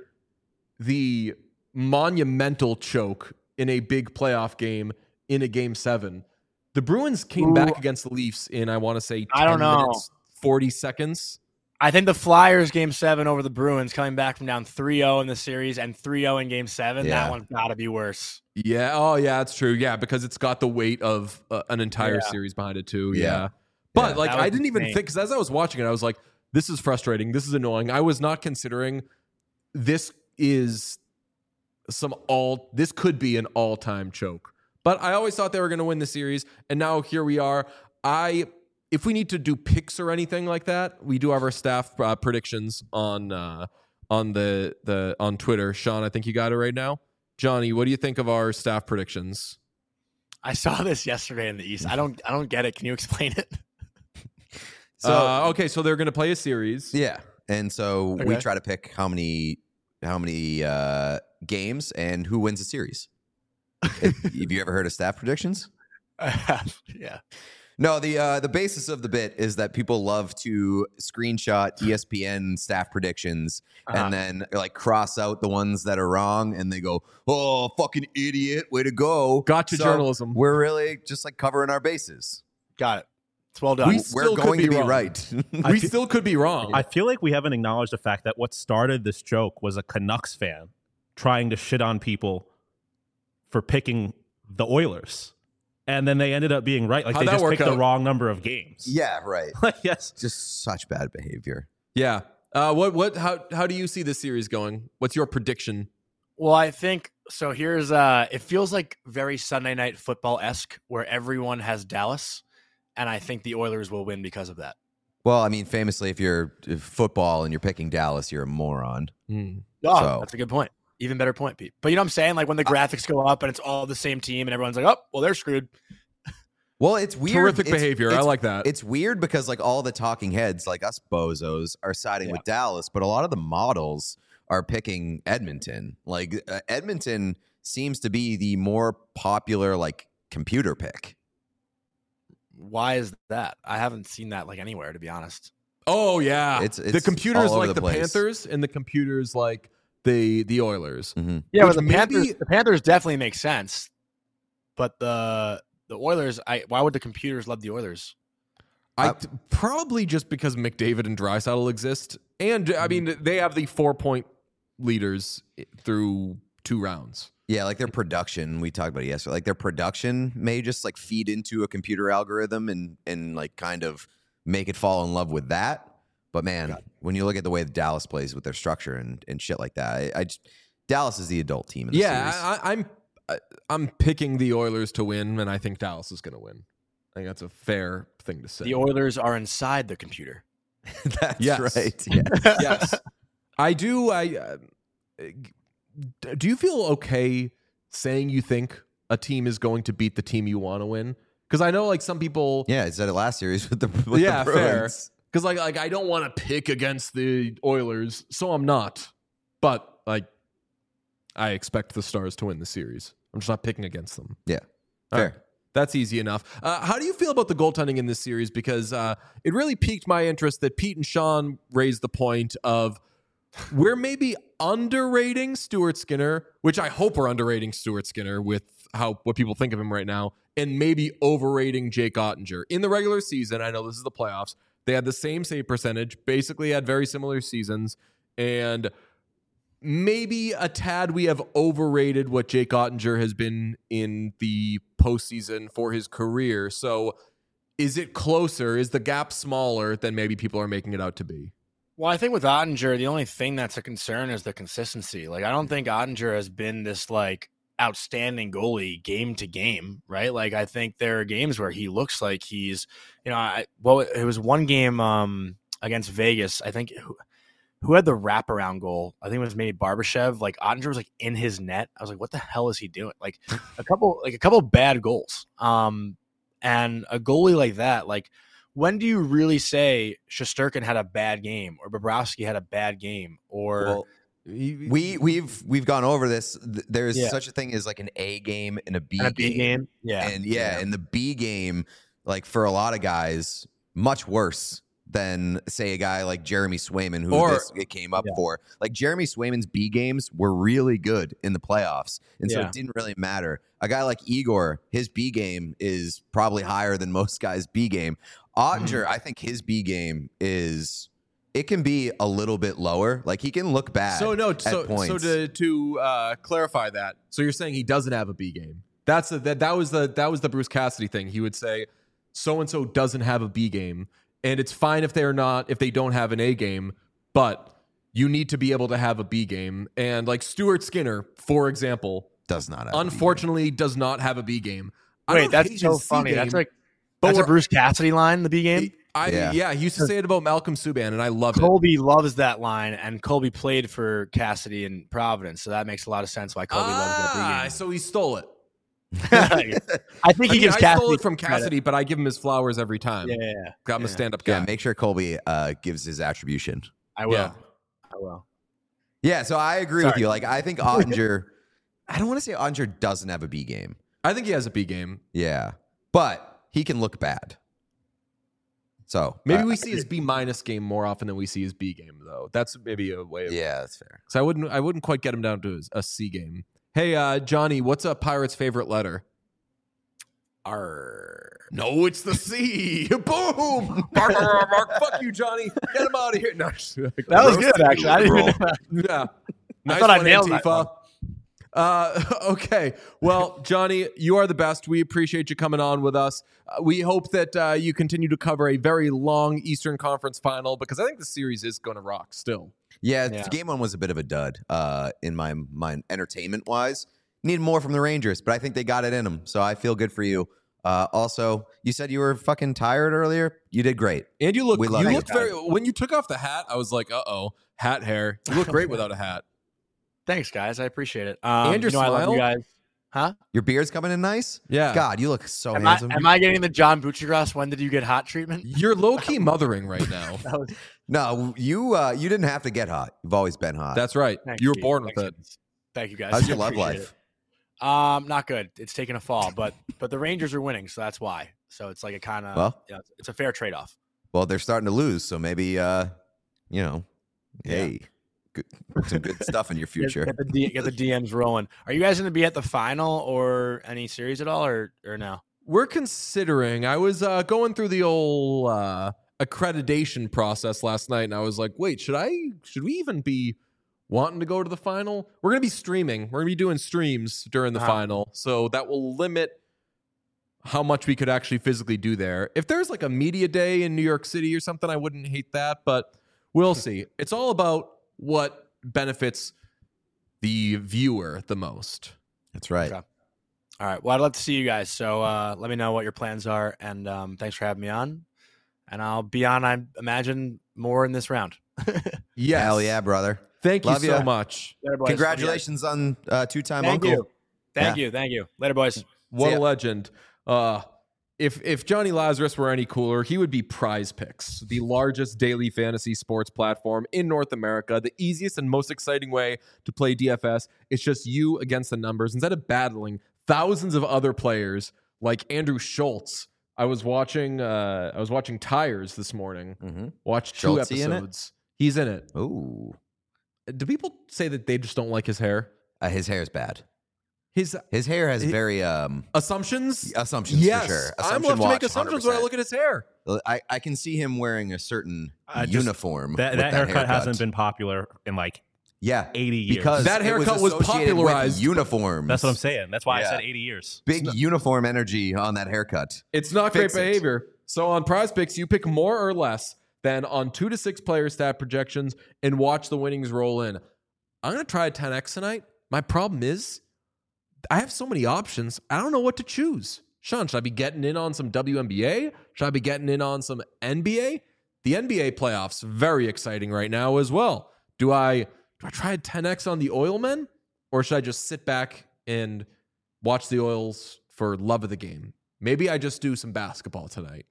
the monumental choke in a big playoff game in a Game 7. The Bruins came back against the Leafs in, I want to say, 10 minutes, 40 seconds. I think the Flyers Game 7 over the Bruins coming back from down 3-0 in the series and 3-0 in Game 7, that one's got to be worse. Yeah, oh yeah, that's true. Yeah, because it's got the weight of an entire series behind it too. Yeah. But like, I didn't even think, because as I was watching it, I was like, this is frustrating. This is annoying. I was not considering this could be an all-time choke. But I always thought they were going to win the series, and now here we are. If we need to do picks or anything like that, we do have our staff predictions on Twitter. Sean, I think you got it right now. Johnny, what do you think of our staff predictions? I saw this yesterday in the East. I don't get it. Can you explain it? So they're going to play a series. Yeah, and so we try to pick how many games and who wins the series. Have you ever heard of staff predictions? I have. Yeah. No, the basis of the bit is that people love to screenshot ESPN staff predictions and then like cross out the ones that are wrong, and they go, "Oh, fucking idiot, way to go!" Gotcha, journalism. We're really just like covering our bases. Got it. It's well done. We're going to be right. We still could be wrong. I feel like we haven't acknowledged the fact that what started this joke was a Canucks fan trying to shit on people for picking the Oilers. And then they ended up being right. Like, How'd they just picked out? the wrong number of games. Yeah, right. Yes. Just such bad behavior. Yeah. How do you see this series going? What's your prediction? Well, I think so. Here's it feels like very Sunday Night Football-esque, where everyone has Dallas, and I think the Oilers will win because of that. Well, I mean, famously, if football and you're picking Dallas, you're a moron. Oh, that's a good point. Even better point, Pete. But you know what I'm saying? Like when the graphics go up and it's all the same team and everyone's like, oh, well, they're screwed. Well, it's weird. Terrific behavior. I like that. It's weird because like all the talking heads, like us bozos, are siding with Dallas, but a lot of the models are picking Edmonton. Like Edmonton seems to be the more popular like computer pick. Why is that? I haven't seen that like anywhere, to be honest. Oh yeah, it's the computers all over like the place. Panthers, and the computers like the Oilers. Mm-hmm. Yeah, but the Panthers definitely make sense, but the Oilers. Why would the computers love the Oilers? Probably just because McDavid and Draisaitl exist, and I mean they have the 4-point leaders through 2 rounds. Yeah, like their production, we talked about it yesterday. Like their production may just like feed into a computer algorithm and like kind of make it fall in love with that. But man, when you look at the way Dallas plays with their structure and shit like that, Dallas is the adult team in the series. I'm picking the Oilers to win, and I think Dallas is going to win. I think that's a fair thing to say. The Oilers are inside the computer. That's right. Yeah. Yes, I do. Do you feel okay saying you think a team is going to beat the team you want to win? Because I know like some people. Yeah, I said it last series with the fair. Bruins. Because like I don't want to pick against the Oilers, so I'm not. But like I expect the Stars to win the series. I'm just not picking against them. Yeah, fair. Right. That's easy enough. How do you feel about the goaltending in this series? Because it really piqued my interest that Pete and Sean raised the point of we're maybe underrating Stuart Skinner, which I hope we're underrating Stuart Skinner with what people think of him right now, and maybe overrating Jake Ottinger. In the regular season, I know this is the playoffs, they had the same save percentage, basically had very similar seasons, and maybe a tad we have overrated what Jake Ottinger has been in the postseason for his career. So is it closer? Is the gap smaller than maybe people are making it out to be? Well, I think with Ottinger, the only thing that's a concern is the consistency. Like, I don't think Ottinger has been this like outstanding goalie game to game, right? Like, I think there are games where he looks like he's, it was one game against Vegas. I think who had the wraparound goal? I think it was maybe Barbashev. Like Ottinger was like in his net. I was like, what the hell is he doing? Like a couple bad goals. And a goalie like that, like, when do you really say Shesterkin had a bad game or Bobrovsky had a bad game? Or we've gone over this. There's such a thing as like an A game and a B game. Yeah. And in the B game, like for a lot of guys, much worse than say a guy like Jeremy Swayman, who it came up for. Like Jeremy Swayman's B games were really good in the playoffs, and so it didn't really matter. A guy like Igor, his B game is probably higher than most guys' B game. Ottinger, I think his B game it can be a little bit lower. Like he can look bad. So at points. So to clarify that, so you're saying he doesn't have a B game. That was the Bruce Cassidy thing. He would say so and so doesn't have a B game. And it's fine if they don't have an A game, but you need to be able to have a B game. And like Stuart Skinner, for example, Does not have unfortunately does not have a B game. I Wait, don't that's hate so his C funny. game, That's like but that's a we're- Bruce Cassidy line. The B game. Yeah, he used to say it about Malcolm Subban, and I love it. Colby loves that line, and Colby played for Cassidy in Providence, so that makes a lot of sense why Colby loves that B So he stole it. game. I think he gives I Cassidy stole it from credit. Cassidy, but I give him his flowers every time. Yeah, I'm a stand-up guy. Yeah, make sure Colby gives his attribution. I will. Yeah. I will. Yeah, so I agree with Sorry. you. Like, I think Ottinger, I don't want to say Ottinger doesn't have a B game. I think he has a B game. Yeah, but he can look bad. So Maybe we see his B minus game more often than we see his B game, though. That's maybe a way of yeah, that's fair. So I wouldn't quite get him down to a C game. Hey, Johnny, what's a Pirate's favorite letter? R. No, it's the C. Boom! Mark, fuck you, Johnny. Get him out of here. No, That was good, actually. I didn't even know. yeah. Nice thought I one, nailed that Antifa. Okay. Well, Johnny, you are the best. We appreciate you coming on with us. We hope that you continue to cover a very long Eastern Conference final because I think the series is going to rock still. Yeah, Yeah. game one was a bit of a dud in my mind, entertainment wise. Need more from the Rangers, but I think they got it in them. So I feel good for you. Also, you said you were fucking tired earlier. You did great. And you look, We love you you. looked very, when you took off the hat, I was like, uh-oh, hat hair. You look great without a hat. Thanks, guys. I appreciate it. And your I love smile? you guys. Huh? Your beard's coming in nice. Yeah. God, you look so Am handsome. I getting the John Buccigross? When did you get hot treatment? You're low-key mothering right now. That was, No, you didn't have to get hot. You've always been hot. That's right. thank You were born with it. Thanks. Thank you, guys. How's your I love appreciate life? it. Not good. It's taking a fall, but the Rangers are winning, so that's why. So it's like a kind of it's a fair trade off. Well, they're starting to lose, so maybe hey, good, some good stuff in your future. Get the DMs rolling. Are you guys going to be at the final or any series at all, or no? We're considering. I was going through the old accreditation process last night, and I was like, wait, should we even be wanting to go to the final? We're going to be streaming. We're going to be doing streams during the final, so that will limit how much we could actually physically do there. If there's like a media day in New York City or something, I wouldn't hate that, but we'll see. It's all about what benefits the viewer the most. That's right. Okay. All right. Well, I'd love to see you guys. So let me know what your plans are, and thanks for having me on. And I'll be on, I imagine, more in this round. Yes. Hell yeah, brother. Thank Love you so ya. much. Later, boys. Congratulations on two-time Thank uncle. you. Thank you. Later, boys. What See a ya. legend. If Johnny Lazarus were any cooler, he would be Prize Picks, the largest daily fantasy sports platform in North America. The easiest and most exciting way to play DFS. It's just you against the numbers. Instead of battling thousands of other players like Andrew Schultz. I was watching Tires this morning. Mm-hmm. Watched 2 Schultz in it? episodes. He's in it. Ooh, Do people say that they just don't like his hair? his hair's bad. His His hair has very assumptions? assumptions Yes. for sure. I'm Assumption left to make watch, assumptions when I 100%. look at his hair. I can see him wearing a certain Just- uniform. That with haircut hasn't been popular in like yeah 80 years. because That it haircut was associated with popularized. uniforms. That's what I'm saying. That's why Yeah. I said 80 years. Big uniform energy on that haircut. It's not Fix great it. behavior. So on Prize Picks, you pick more or less than on 2 to 6 player stat projections and watch the winnings roll in. I'm going to try a 10x tonight. My problem is I have so many options. I don't know what to choose. Sean, should I be getting in on some WNBA? Should I be getting in on some NBA? The NBA playoffs, very exciting right now as well. Do I try a 10x on the Oilmen? Or should I just sit back and watch the Oils for love of the game? Maybe I just do some basketball tonight.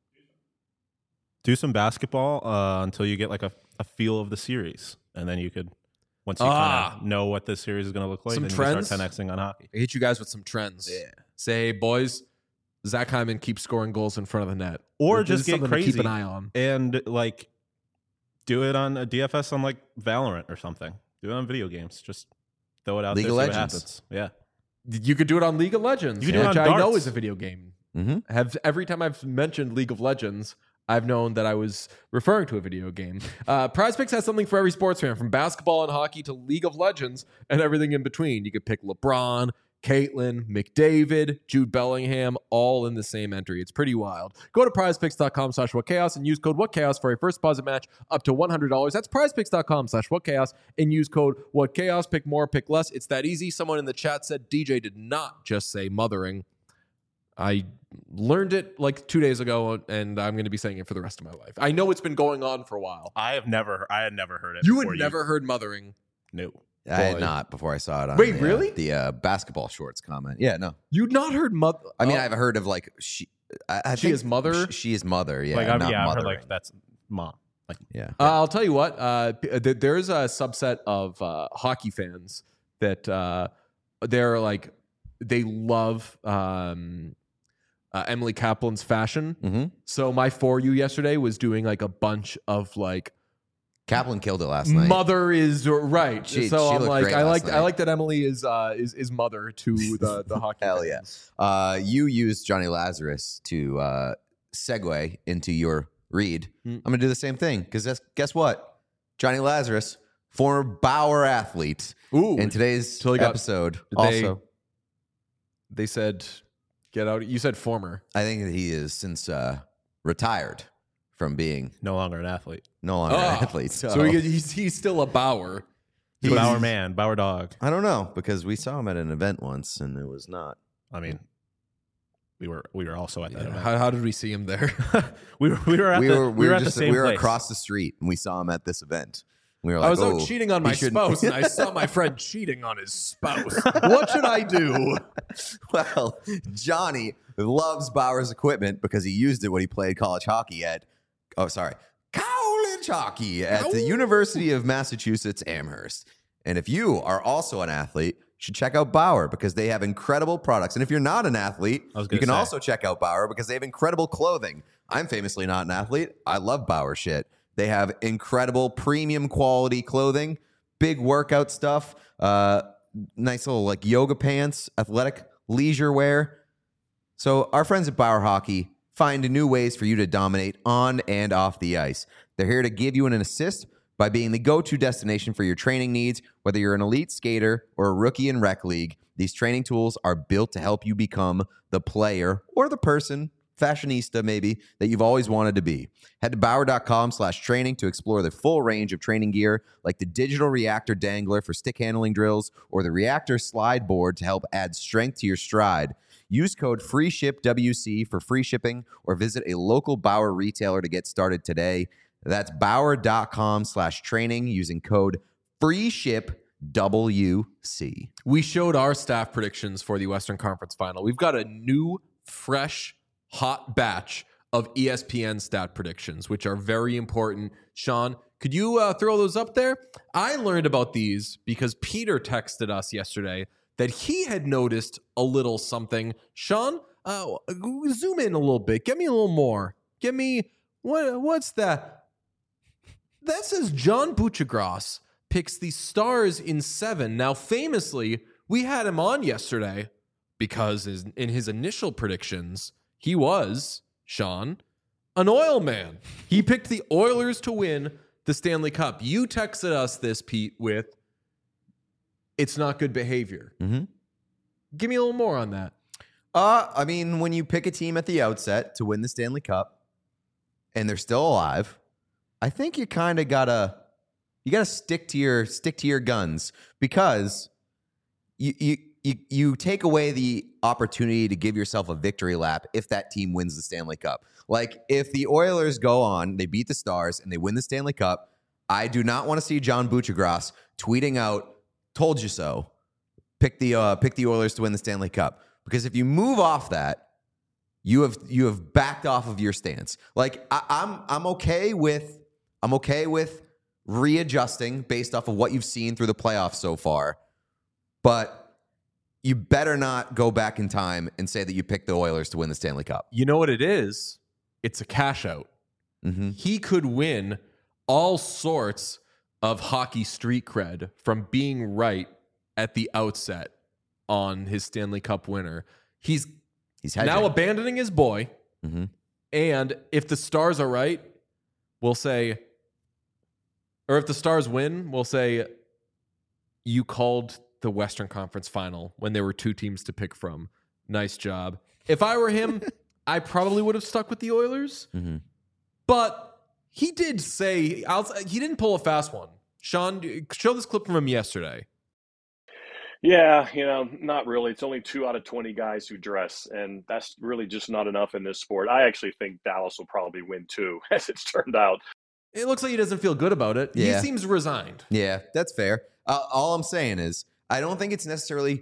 Do some basketball until you get like a feel of the series. And then you could, once you kind of know what this series is going to look like, Some then trends? you can start 10xing on hockey. I hit you guys with some trends. Yeah. Say, hey, boys, Zach Hyman keeps scoring goals in front of the net. Or This is just get something to keep crazy. an eye on. And like do it on a DFS on like Valorant or something. Do it on video games. Just throw it out League there. of See what Legends. happens. Yeah. You could do it on League of Legends, You could do it which on I know darts. is a video game. Mm-hmm. Every time I've mentioned League of Legends, I've known that I was referring to a video game. Prize Picks has something for every sports fan, from basketball and hockey to League of Legends and everything in between. You could pick LeBron, Caitlin, McDavid, Jude Bellingham, all in the same entry. It's pretty wild. Go to prizepicks.com/whatchaos and use code whatchaos for a first deposit match up to $100. That's prizepicks.com/whatchaos and use code whatchaos. Pick more, pick less. It's that easy. Someone in the chat said DJ did not just say mothering. I learned it like 2 days ago, and I'm going to be saying it for the rest of my life. I know it's been going on for a while. I had never heard it. You had never heard mothering? No. I had not before I saw it on Wait, really? the basketball shorts comment. Yeah, no. You'd not heard mother? I mean, I've heard of like she She is mother? She is mother, yeah. Like, not I've heard mothering. like that's mom. Like, yeah. I'll tell you what. There's a subset of hockey fans that they're like they love Emily Kaplan's fashion. Mm-hmm. So my For You yesterday was doing like a bunch of like Kaplan killed it last night. mother is right. She so I'm looked like great I last like that Emily is mother to the hockey Hell fans. yeah. You used Johnny Lazarus to segue into your read. I'm going to do the same thing because guess what? Johnny Lazarus, former Bauer athlete. Ooh, In today's Totally got- episode, they- also, they said get out. You said former. I think that he is since retired from being no longer an athlete. no longer an athlete. So he's still a Bauer. He's Bauer man, Bauer dog. I don't know because we saw him at an event once and it was not. I mean, we were also at that event. How did we see him there? we were at the same we were place. across the street and we saw him at this event. We were like, I was oh, out cheating on my he shouldn't- spouse, and I saw my friend cheating on his spouse. What should I do? Well, Johnny loves Bauer's equipment because he used it when he played college hockey college hockey at the University of Massachusetts Amherst. And if you are also an athlete, you should check out Bauer because they have incredible products. And if you're not an athlete, you can also check out Bauer because they have incredible clothing. I'm famously not an athlete. I love Bauer shit. They have incredible premium quality clothing, big workout stuff, nice little like yoga pants, athletic leisure wear. So our friends at Bauer Hockey find new ways for you to dominate on and off the ice. They're here to give you an assist by being the go-to destination for your training needs. Whether you're an elite skater or a rookie in rec league, these training tools are built to help you become the player or the person, fashionista maybe, that you've always wanted to be. Head to Bauer.com/training to explore the full range of training gear like the digital reactor dangler for stick handling drills or the reactor slide board to help add strength to your stride. Use code FREESHIPWC for free shipping or visit a local Bauer retailer to get started today. That's Bauer.com/training using code FREESHIPWC. We showed our staff predictions for the Western Conference Final. We've got a new, fresh, hot batch of ESPN stat predictions, which are very important. Sean, could you throw those up there? I learned about these because Peter texted us yesterday that he had noticed a little something. Sean, zoom in a little bit. Give me a little more. Give me, what's that? That says John Buccigross picks the Stars in 7. Now, famously, we had him on yesterday because in his initial predictions, he was, Sean, an Oil man. He picked the Oilers to win the Stanley Cup. You texted us this, Pete, with, it's not good behavior. Mm-hmm. Give me a little more on that. I mean, when you pick a team at the outset to win the Stanley Cup and they're still alive, I think you kind of gotta stick to your guns because you take away the opportunity to give yourself a victory lap if that team wins the Stanley Cup. Like if the Oilers go on, they beat the Stars and they win the Stanley Cup, I do not want to see John Buccigross tweeting out, "Told you so." Pick the Oilers to win the Stanley Cup because if you move off that, you have backed off of your stance. Like I'm okay with readjusting based off of what you've seen through the playoffs so far, but you better not go back in time and say that you picked the Oilers to win the Stanley Cup. You know what it is? It's a cash out. Mm-hmm. He could win all sorts of hockey street cred from being right at the outset on his Stanley Cup winner. He's hedging. now abandoning his boy. Mm-hmm. And if the Stars are right, we'll say, or if the Stars win, we'll say, you called the Western Conference Final when there were 2 teams to pick from. Nice job. If I were him, I probably would have stuck with the Oilers. Mhm. But he did say he didn't pull a fast one. Sean, show this clip from him yesterday. Yeah, not really. It's only 2 out of 20 guys who dress, and that's really just not enough in this sport. I actually think Dallas will probably win too, as it's turned out. It looks like he doesn't feel good about it. Yeah. He seems resigned. Yeah, that's fair. All I'm saying is, I don't think it's necessarily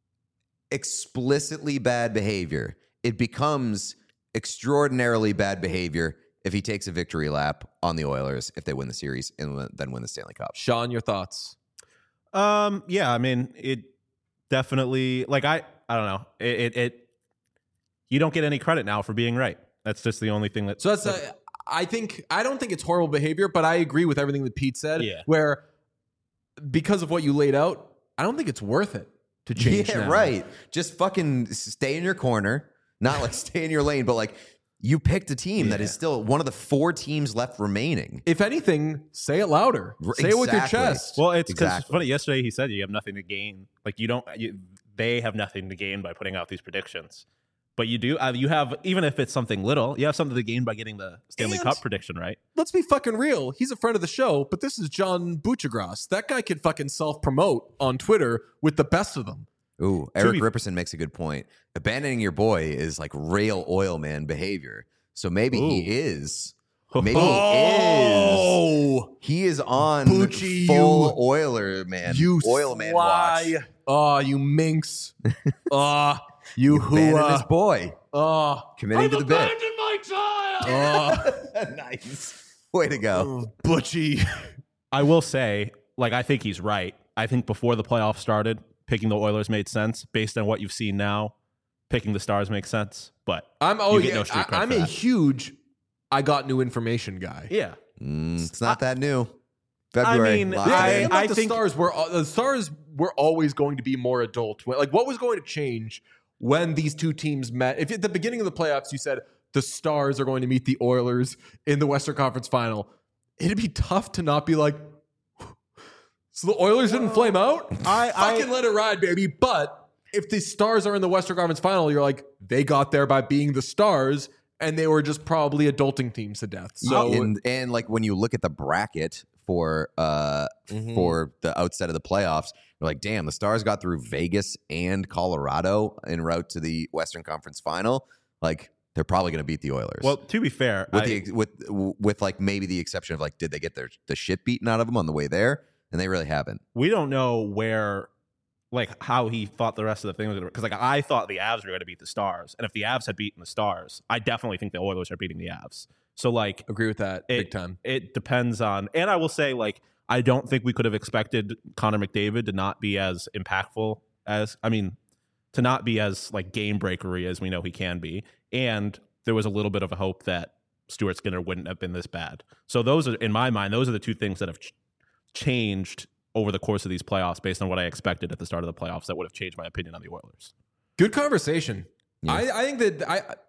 explicitly bad behavior. It becomes extraordinarily bad behavior if he takes a victory lap on the Oilers if they win the series and then win the Stanley Cup. Sean, your thoughts? Yeah, I mean, it definitely, like, I don't know. It you don't get any credit now for being right. That's just the only thing that. So that's I don't think it's horrible behavior, but I agree with everything that Pete said. Yeah. Where because of what you laid out, I don't think it's worth it to change. Yeah, now. right. Just fucking stay in your corner, not like stay in your lane, but like you picked a team that is still one of the 4 teams left remaining. If anything, say it louder. Say it with your Exactly. chest. Well, it's because Exactly. funny. Yesterday he said you have nothing to gain. Like they have nothing to gain by putting out these predictions. But you do. You have, even if it's something little, you have something to gain by getting the Stanley And- Cup prediction right. Let's be fucking real. He's a friend of the show, but this is John Buchagras. That guy could fucking self-promote on Twitter with the best of them. Ooh, Eric Ripperson makes a good point. Abandoning your boy is like real oil man behavior. So maybe he is. Maybe he is. He is on Bucci, full Oiler man. You oil man watch. sly. Oh, you minx. Oh, you Abandoned his whoa. boy. Oh, Committing to the bit. my child! oh, Nice. Way to go. Butchie. I will say, like, I think he's right. I think before the playoffs started, picking the Oilers made sense. Based on what you've seen now, picking the Stars makes sense. But I'm you get no street cred I'm for a that. huge I got new information guy. Yeah. It's not that new. February. mean, locked I- in. The Stars were always going to be more adult. Like, what was going to change when these 2 teams met? If at the beginning of the playoffs you said the Stars are going to meet the Oilers in the Western Conference Final, it'd be tough to not be like, so the Oilers didn't flame out? Fucking let it ride, baby. But if the Stars are in the Western Conference Final, you're like, they got there by being the Stars, and they were just probably adulting teams to death. So and like when you look at the bracket for the outset of the playoffs, you're like, damn, the Stars got through Vegas and Colorado en route to the Western Conference Final. Like, they're probably going to beat the Oilers. Well, to be fair, with like maybe the exception of like, did they get the shit beaten out of them on the way there? And they really haven't. we don't know where, like, how he thought the rest of the thing was going to, because, like, I thought the Avs were going to beat the Stars, and if the Avs had beaten the Stars, I definitely think the Oilers are beating the Avs. So, like, agree with that big time. It depends on, and I will say, like, I don't think we could have expected Connor McDavid to not be as impactful as, I mean, to not be as, like, game breakery as we know he can be. And there was a little bit of a hope that Stuart Skinner wouldn't have been this bad. So those are, in my mind, those are the 2 things that have changed over the course of these playoffs based on what I expected at the start of the playoffs that would have changed my opinion on the Oilers. Good conversation. Yeah. I think that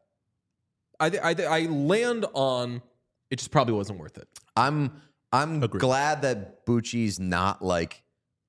I land on it just probably wasn't worth it. I'm Agreed. glad that Bucci's not like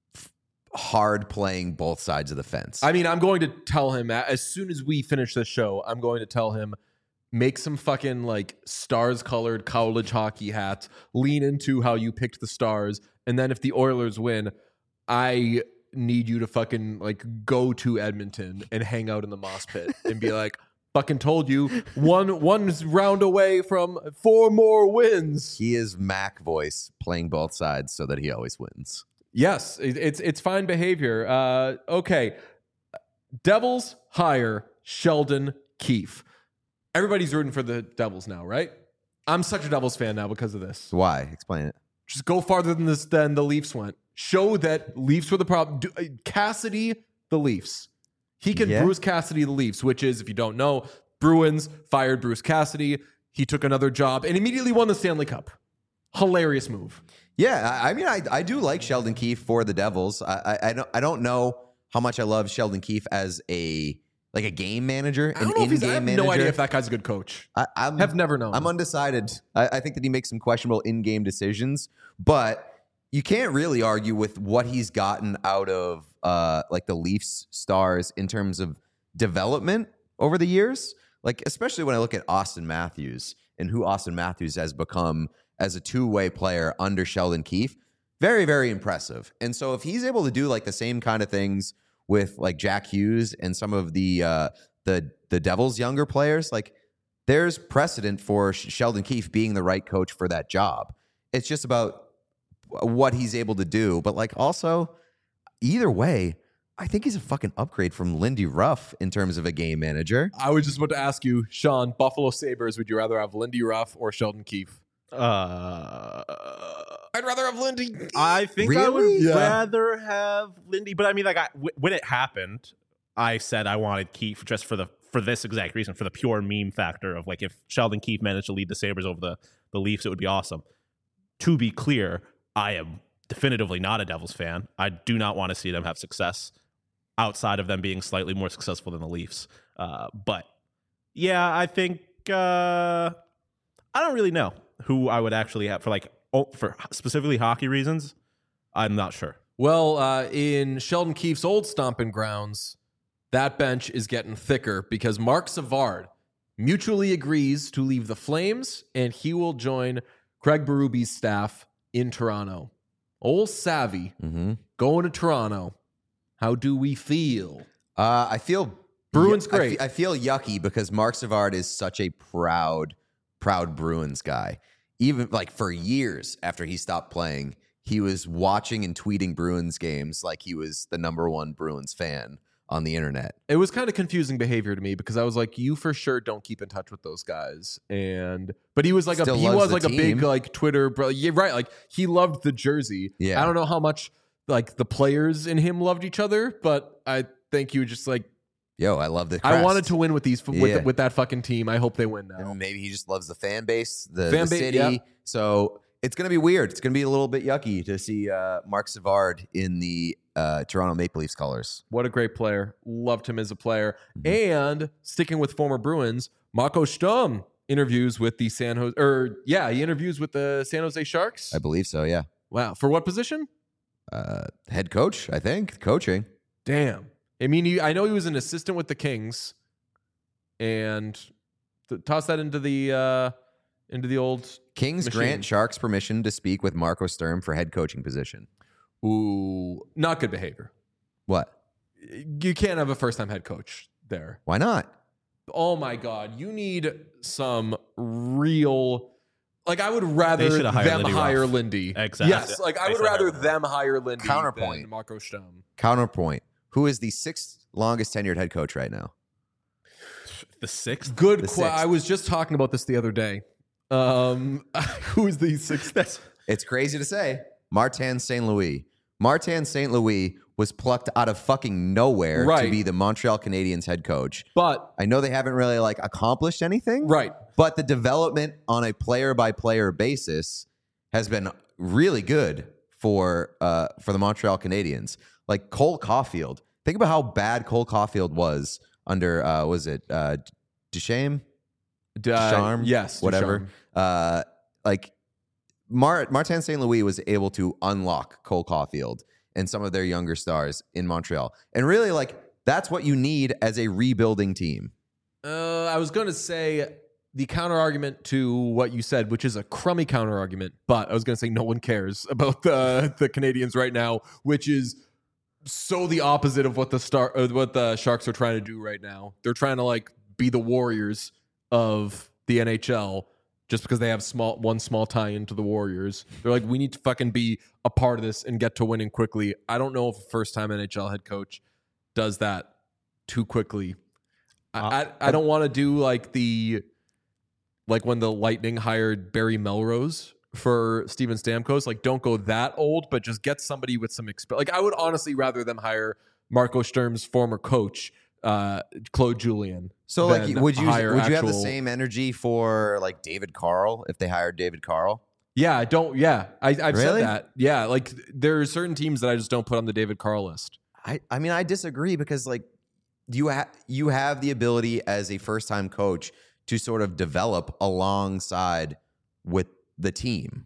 hard playing both sides of the fence. I mean, I'm going to tell him as soon as we finish this show, I'm going to tell him make some fucking like Stars colored college hockey hats, lean into how you picked the Stars, and then if the Oilers win, I need you to fucking like go to Edmonton and hang out in the moss pit and be like, fucking told you, one round away from 4 more wins. He is Mac voice playing both sides so that he always wins. Yes, it's fine behavior. Okay, Devils hire Sheldon Keefe. Everybody's rooting for the Devils now, right? I'm such a Devils fan now because of this. Why? Explain it. Just go farther than this than the Leafs went. Show that Leafs were the problem. Cassidy, the Leafs. He can Yeah. Bruce Cassidy the Leafs, which is, if you don't know, Bruins fired Bruce Cassidy. He took another job and immediately won the Stanley Cup. Hilarious move. Yeah, I mean, I do like Sheldon Keefe for the Devils. I don't know how much I love Sheldon Keefe as a game manager, I an don't know if he's, I in-game have manager. no idea if that guy's a good coach. I've Have never known. I'm undecided. I think that he makes some questionable in-game decisions, but you can't really argue with what he's gotten out of like the Leafs stars in terms of development over the years. Like, especially when I look at Austin Matthews and who Austin Matthews has become as a two-way player under Sheldon Keefe, very, very impressive. And so if he's able to do like the same kind of things with like Jack Hughes and some of the Devils' younger players, like there's precedent for Sheldon Keefe being the right coach for that job. It's just about what he's able to do. But like also, either way, I think he's a fucking upgrade from Lindy Ruff in terms of a game manager. I was just about to ask you, Sean, Buffalo Sabres, would you rather have Lindy Ruff or Sheldon Keefe? I'd rather have Lindy. I think I would Really? rather have Lindy, but I mean, like, when it happened, I said I wanted Keefe just for this exact reason, for the pure meme factor of like if Sheldon Keefe managed to lead the Sabres over the Leafs, it would be awesome. To be clear, I am definitively not a Devils fan. I do not want to see them have success outside of them being slightly more successful than the Leafs. But yeah, I think I don't really know who I would actually have for specifically hockey reasons. I'm not sure. Well, in Sheldon Keefe's old stomping grounds, that bench is getting thicker because Mark Savard mutually agrees to leave the Flames and he will join Craig Berube's staff in Toronto. Old Savvy going to Toronto. How do we feel? I feel Bruins great. I feel yucky because Mark Savard is such a proud Bruins guy. Even like for years after he stopped playing, he was watching and tweeting Bruins games like he was the number one Bruins fan on the internet. It was kind of confusing behavior to me because I was like, you for sure don't keep in touch with those guys. But he was like Still he loves was the like a big team. like Twitter bro. Yeah, right. Like he loved the jersey. Yeah. I don't know how much like the players in him loved each other, but I think you just like Yo, I love the I crest. wanted to win with these Yeah. with that fucking team. I hope they win now. And maybe he just loves the fan base, the Fan base, city. yeah. So it's going to be weird. It's going to be a little bit yucky to see Mark Savard in the Toronto Maple Leafs colors. What a great player. Loved him as a player. And sticking with former Bruins, Marco Sturm interviews with the San Jose Sharks. I believe so, yeah. Wow. For what position? Head coach, I think. Coaching. Damn. I mean, I know he was an assistant with the Kings, and toss that into the old Kings machine. grant Sharks permission to speak with Marco Sturm for head coaching position. Ooh, not good behavior. What? You can't have a first-time head coach there. Why not? Oh my God, you need some real. Like I would They rather should have hired them Lindy hire Ruff. Lindy. Exactly. Yes, like I They would should have rather hired them hire Lindy Counterpoint. than Marco Sturm. Counterpoint. Who is the sixth longest tenured head coach right now? The sixth? Good. The sixth. I was just talking about this the other day. Who is the sixth? It's crazy to say. Martin St. Louis. Martin St. Louis was plucked out of fucking nowhere Right. to be the Montreal Canadiens head coach. But I know they haven't really like accomplished anything. right, But the development on a player by player basis has been really good for the Montreal Canadiens. Like Cole Caulfield. Think about how bad Cole Caulfield was under Ducharme? Ducharme? yes, Whatever. Ducharme. Like Martin St. Louis was able to unlock Cole Caulfield and some of their younger stars in Montreal. And really, like, that's what you need as a rebuilding team. I was going to say the counter argument to what you said, which is a crummy counter argument, but I was going to say no one cares about the Canadians right now, which is so the opposite of what the Sharks are trying to do right now. They're trying to like be the Warriors of the NHL just because they have one small tie into the Warriors. They're like, we need to fucking be a part of this and get to winning quickly. I don't know if a first-time NHL head coach does that too quickly. I don't want to do like when the Lightning hired Barry Melrose for Steven Stamkos. Like, don't go that old, but just get somebody with some experience. Like, I would honestly rather them hire Marco Sturm's former coach, Claude Julien. So, like, than would you hire have the actual- same energy for like David Carl if they hired David Carl? Yeah, I don't. Yeah, I've Really? said that. Yeah, like there are certain teams that I just don't put on the David Carl list. I mean, I disagree because like you have the ability as a first time coach to sort of develop alongside with the team.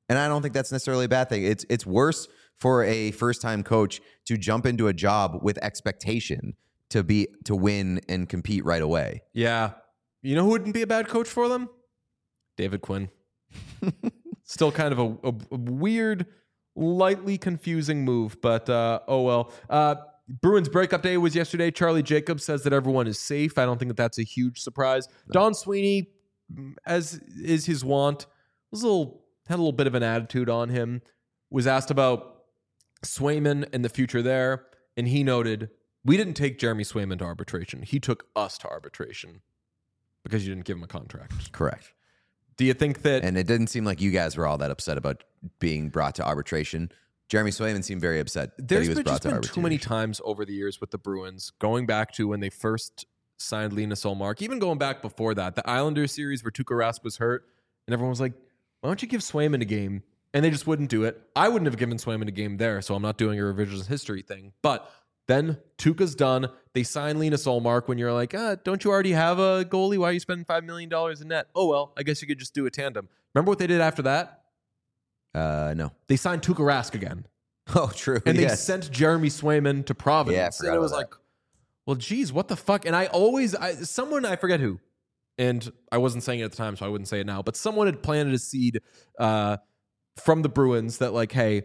And I don't think that's necessarily a bad thing. It's worse for a first-time coach to jump into a job with expectation to win and compete right away. Yeah. You know who wouldn't be a bad coach for them? David Quinn. Still kind of a weird, lightly confusing move, but oh well. Bruins breakup day was yesterday. Charlie Jacobs says that everyone is safe. I don't think that's a huge surprise. Don Sweeney, as is his wont, had a little bit of an attitude on him. Was asked about Swayman and the future there, and he noted, "We didn't take Jeremy Swayman to arbitration. He took us to arbitration because you didn't give him a contract." Correct. Do you think that? And it didn't seem like you guys were all that upset about being brought to arbitration. Jeremy Swayman seemed very upset that he was brought to arbitration. Too many times over the years with the Bruins, going back to when they first signed Linus Ullmark, even going back before that, the Islanders series where Tuukka Rask was hurt, and everyone was like, "Why don't you give Swayman a game?" And they just wouldn't do it. I wouldn't have given Swayman a game there, so I'm not doing a revisionist history thing. But then Tuukka's done. They sign Linus Ullmark when you're like, don't you already have a goalie? Why are you spending $5 million in net? Oh, well, I guess you could just do a tandem. Remember what they did after that? No. They signed Tuukka Rask again. Oh, true. And they sent Jeremy Swayman to Providence. Yeah, and it was like, well, geez, what the fuck? And I forget who, and I wasn't saying it at the time, so I wouldn't say it now, but someone had planted a seed from the Bruins that like, hey,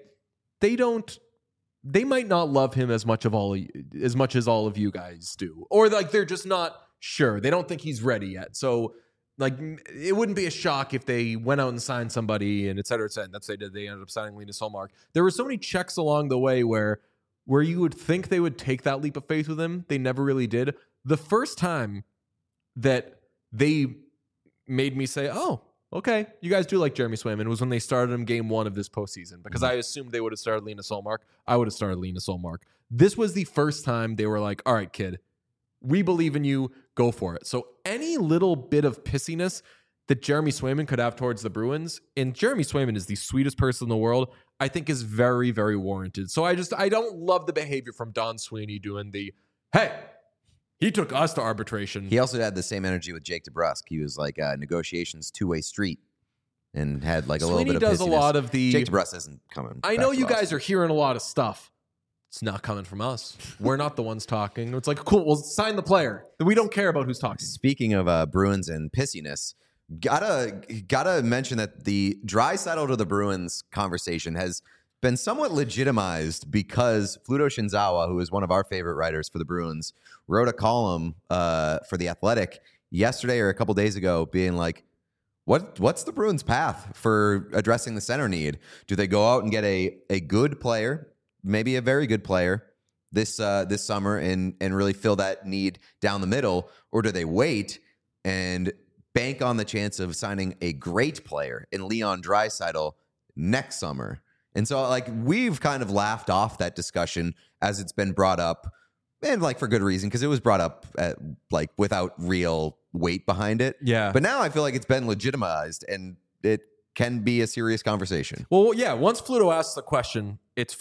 they might not love him as much as all of you guys do. Or like they're just not sure. They don't think he's ready yet. So like it wouldn't be a shock if they went out and signed somebody and et cetera, et cetera. And that's what they did. They ended up signing Linus Ullmark. There were so many checks along the way where you would think they would take that leap of faith with him. They never really did. The first time that they made me say, oh, okay, you guys do like Jeremy Swayman, was when they started him game 1 of this postseason, because I assumed they would have started Linus Ullmark. I would have started Linus Ullmark. This was the first time they were like, all right, kid, we believe in you. Go for it. So any little bit of pissiness that Jeremy Swayman could have towards the Bruins, and Jeremy Swayman is the sweetest person in the world, I think is very, very warranted. So I don't love the behavior from Don Sweeney doing the, hey, he took us to arbitration. He also had the same energy with Jake DeBrusk. He was like negotiations two-way street and had like a Sweeney little bit of does pissiness. a lot of the... Jake DeBrusk isn't coming. I know you guys are hearing a lot of stuff. It's not coming from us. We're not the ones talking. It's like, cool, we'll sign the player. We don't care about who's talking. Speaking of Bruins and pissiness, gotta mention that the Draisaitl to the Bruins conversation has been somewhat legitimized because Fluto Shinzawa, who is one of our favorite writers for the Bruins, wrote a column for The Athletic yesterday or a couple days ago being like, what's the Bruins' path for addressing the center need? Do they go out and get a good player, maybe a very good player this summer and really fill that need down the middle? Or do they wait and bank on the chance of signing a great player in Leon Draisaitl next summer? And so, like, we've kind of laughed off that discussion as it's been brought up, and like for good reason, because it was brought up like without real weight behind it. Yeah. But now I feel like it's been legitimized, and it can be a serious conversation. Well, yeah. Once Fluto asks the question, it's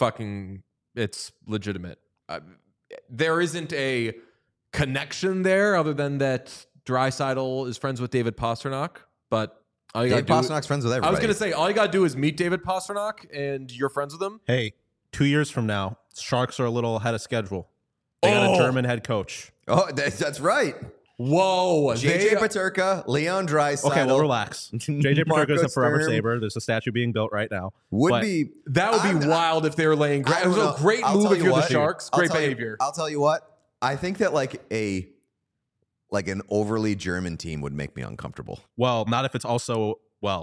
legitimate. There isn't a connection there other than that Draisaitl is friends with David Pastrnak, but. David Pasternak's friends with everybody. I was going to say, all you got to do is meet David Pastrnak, and you're friends with him. Hey, 2 years from now, Sharks are a little ahead of schedule. They got a German head coach. Oh, that's right. Whoa. JJ Peterka, Leon Draisaitl. Okay, well, relax. JJ Peterka is a forever Sabre. There's a statue being built right now. That would be wild if they were laying. It was a great move if you're the Sharks. Great behavior. I'll tell you what. I think that like an overly German team would make me uncomfortable. Well, not if it's also,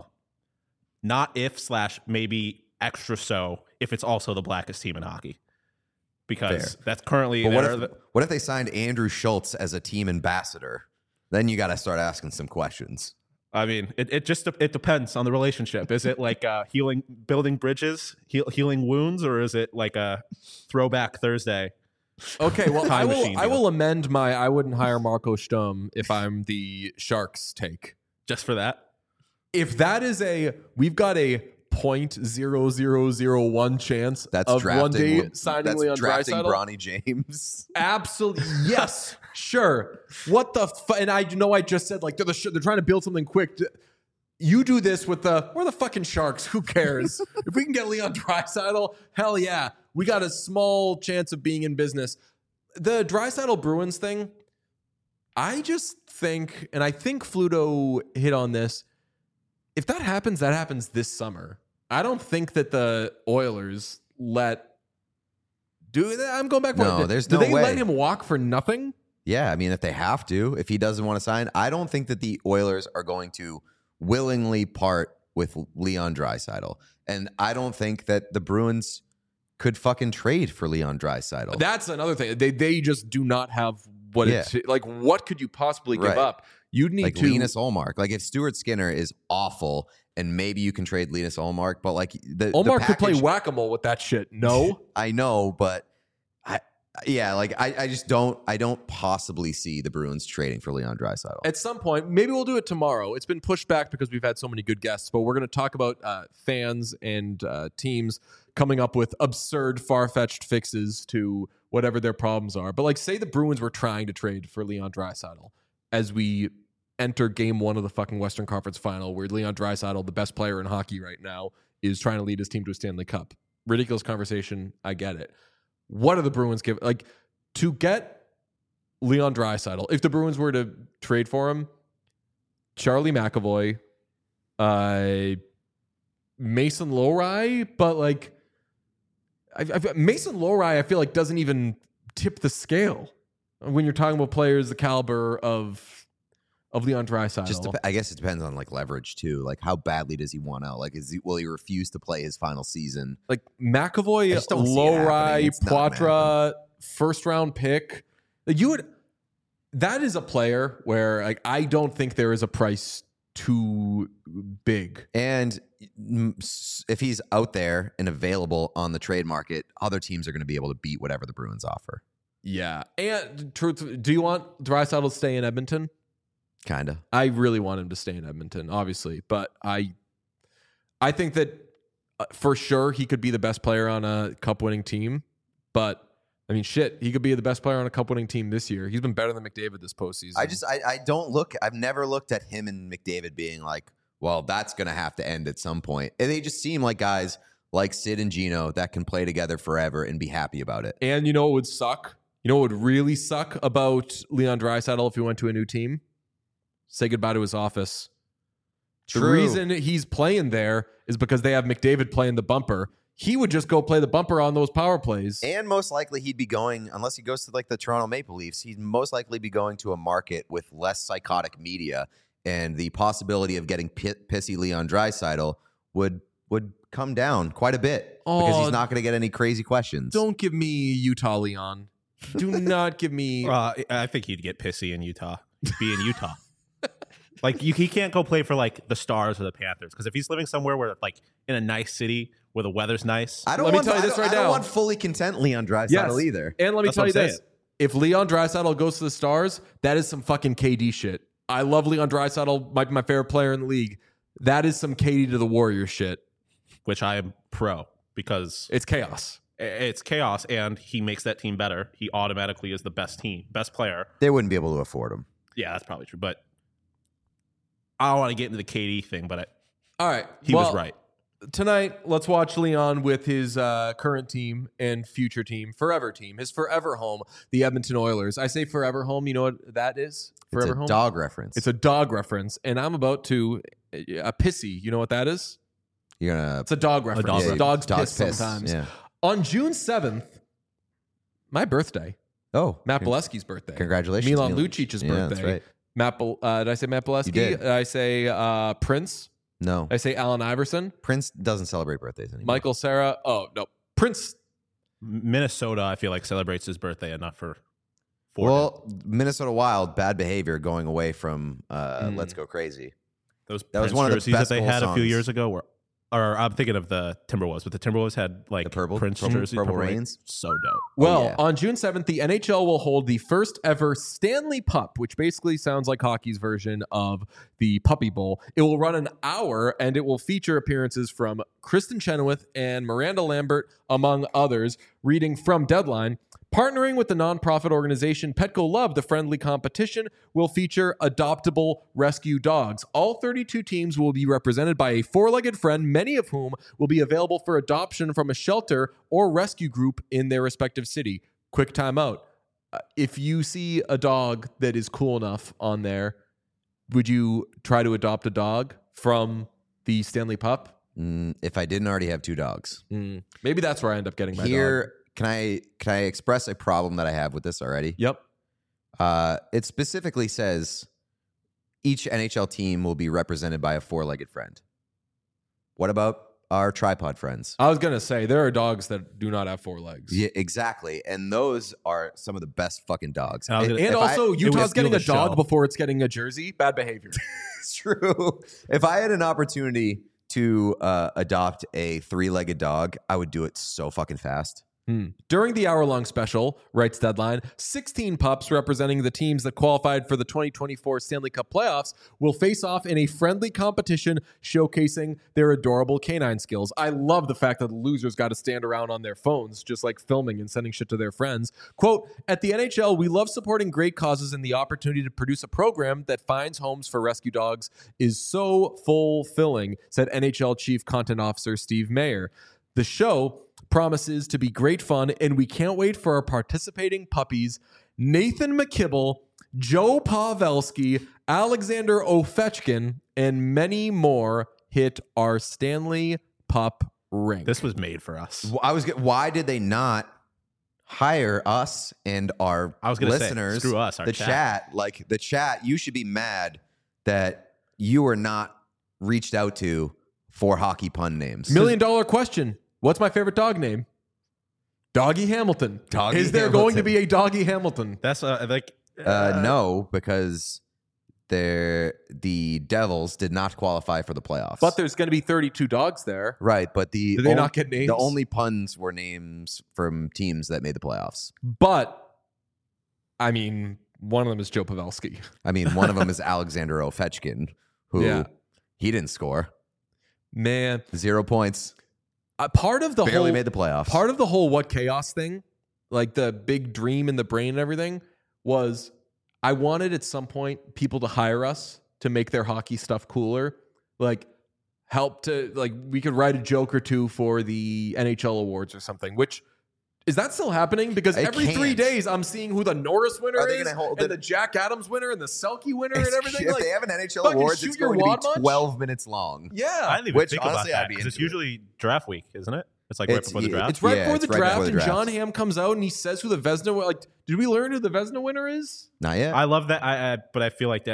not if / maybe extra so if it's also the blackest team in hockey. Because that's currently... But what if they signed Andrew Schultz as a team ambassador? Then you got to start asking some questions. I mean, it depends on the relationship. Is it like building bridges, healing wounds, or is it like a throwback Thursday? Okay, well, I will amend my I wouldn't hire Marco Sturm if I'm the Sharks take. Just for that? If that is we've got a 0.0001 chance of one day signing Leon drafting Draisaitl. Bronny James. Absolutely. Yes. Sure. What the and I know I just said like they're trying to build something quick. You do this with we're the fucking Sharks. Who cares? If we can get Leon Draisaitl, hell yeah. We got a small chance of being in business. The Draisaitl Bruins thing, I just think, and I think Fluto hit on this, if that happens this summer. I don't think that the Oilers do that. I'm going back. No, there's do no they way. let him walk for nothing? Yeah, I mean, if they have to, if he doesn't want to sign, I don't think that the Oilers are going to willingly part with Leon Draisaitl. And I don't think that the Bruins could fucking trade for Leon Draisaitl. That's another thing. They just do not have what it's like. What could you possibly give up? You'd need like to Linus Ullmark. Like if Stuart Skinner is awful, and maybe you can trade Linus Ullmark, but like Ullmark could play whack-a-mole with that shit. No, I know, but I just don't possibly see the Bruins trading for Leon Draisaitl. At some point, maybe we'll do it tomorrow. It's been pushed back because we've had so many good guests, but we're going to talk about fans and teams coming up with absurd, far-fetched fixes to whatever their problems are. But like, say the Bruins were trying to trade for Leon Draisaitl as we enter game 1 of the fucking Western Conference Final, where Leon Draisaitl, the best player in hockey right now, is trying to lead his team to a Stanley Cup. Ridiculous conversation. I get it. What do the Bruins give? Like, to get Leon Draisaitl, if the Bruins were to trade for him, Charlie McAvoy, Mason Lohrei, but like, Mason Lohrei, I feel like doesn't even tip the scale when you're talking about players the caliber of Leon Draisaitl. I guess it depends on like leverage too. Like how badly does he want out? Like will he refuse to play his final season? Like McAvoy, Lohrei, Poitras, first round pick. Like that is a player where like I don't think there is a price too big. And if he's out there and available on the trade market, other teams are going to be able to beat whatever the Bruins offer. Yeah. And do you want Draisaitl to stay in Edmonton? Kind of. I really want him to stay in Edmonton, obviously, but I think that for sure he could be the best player on a cup-winning team. But I mean, shit, he could be the best player on a cup-winning team this year. He's been better than McDavid this postseason. I've never looked at him and McDavid being like, well, that's going to have to end at some point. And they just seem like guys like Sid and Gino that can play together forever and be happy about it. And you know what would suck? You know what would really suck about Leon Draisaitl if he went to a new team? Say goodbye to his office. True. The reason he's playing there is because they have McDavid playing the bumper. He would just go play the bumper on those power plays. And most likely he'd be going, unless he goes to like the Toronto Maple Leafs, he'd most likely be going to a market with less psychotic media, and the possibility of getting pissy Leon Draisaitl would come down quite a bit because he's not going to get any crazy questions. Don't give me Utah Leon. Do not give me... I think he'd get pissy in Utah. Be in Utah. Like he can't go play for like the Stars or the Panthers, because if he's living somewhere where like in a nice city where the weather's nice, I don't want fully content Leon Draisaitl either. And let me tell you this: if Leon Draisaitl goes to the Stars, that is some fucking KD shit. I love Leon Draisaitl; might be my favorite player in the league. That is some KD to the Warriors shit, which I am pro, because it's chaos. It's chaos, and he makes that team better. He automatically is the best player. They wouldn't be able to afford him. Yeah, that's probably true, but I don't want to get into the KD thing, but all right, he was right. Tonight, let's watch Leon with his current team and future team, forever team, his forever home, the Edmonton Oilers. I say forever home. You know what that is? Forever home? It's a dog reference. It's a dog reference, and I'm about to a pissy. You know what that is? It's a dog reference. Dogs piss sometimes. Yeah. On June 7th, my birthday. Oh, Matt Bolesky's birthday. Congratulations. Milan Lucic's birthday. That's right. Did I say Matt Bolesky? You did. Did I say Prince? No. Did I say Allen Iverson? Prince doesn't celebrate birthdays anymore. Michael Cera. Oh, no. Prince. Minnesota, I feel like, celebrates his birthday enough for him. Minnesota Wild, bad behavior going away from Let's Go Crazy. That was one of the best that they had a few years ago. Or I'm thinking of the Timberwolves, but the Timberwolves had like the Prince jersey, Purple Rains. So dope. Well, on June 7th, the NHL will hold the first ever Stanley Pup, which basically sounds like hockey's version of the Puppy Bowl. It will run an hour, and it will feature appearances from Kristen Chenoweth and Miranda Lambert, among others. Reading from Deadline, Partnering with the nonprofit organization Petco Love, the friendly competition will feature adoptable rescue dogs. All 32 teams will be represented by a four-legged friend, many of whom will be available for adoption from a shelter or rescue group in their respective city. Quick timeout. If you see a dog that is cool enough on there, would you try to adopt a dog from the Stanley Pup? If I didn't already have 2 dogs. Maybe that's where I end up getting my dog. Can I express a problem that I have with this already? Yep. It specifically says each NHL team will be represented by a four-legged friend. What about our tripod friends? I was going to say, there are dogs that do not have 4 legs. Yeah, exactly. And those are some of the best fucking dogs. And also, Utah's getting a dog show. before it's getting a jersey. Bad behavior. It's true. If I had an opportunity to adopt a 3-legged dog, I would do it so fucking fast. During the hour-long special, writes Deadline, 16 pups representing the teams that qualified for the 2024 Stanley Cup playoffs will face off in a friendly competition showcasing their adorable canine skills. I love the fact that the losers got to stand around on their phones, just like filming and sending shit to their friends. Quote, at the NHL, we love supporting great causes, and the opportunity to produce a program that finds homes for rescue dogs is so fulfilling, said NHL Chief Content Officer Steve Mayer. The show promises to be great fun, and we can't wait for our participating puppies, Nathan McKibble, Joe Pavelski, Alexander Ovechkin, and many more hit our Stanley Pup ring. This was made for us. Why did they not hire us and our listeners? Screw us, our the chat. Like the chat, you should be mad that you were not reached out to for hockey pun names. $1 million question. What's my favorite dog name? Doggy Hamilton. Is there going to be a Doggy Hamilton? That's no, because the Devils did not qualify for the playoffs. But there's going to be 32 dogs there. Right, but Did they not get names? The only puns were names from teams that made the playoffs. But, I mean, one of them is Joe Pavelski. I mean, one of them is Alexander Ovechkin, who he didn't score. Man. 0 points. Part of the Barely made the playoffs. Part of the whole What Chaos thing, like the big dream in the brain and everything, was I wanted at some point people to hire us to make their hockey stuff cooler. Like help to, like, we could write a joke or two for the NHL awards or something, which is that still happening? Because every 3 days I'm seeing who the Norris winner is and the Jack Adams winner and the Selke winner and everything. If like, they have an NHL awards, it's going to be 12 minutes long. Yeah. I didn't even think about that because it's usually draft week, isn't it? It's like right before the draft. It's right before the draft, and John Hamm comes out and he says who the Vezina. Like, did we learn who the Vezina winner is? Not yet. I love that. But I feel like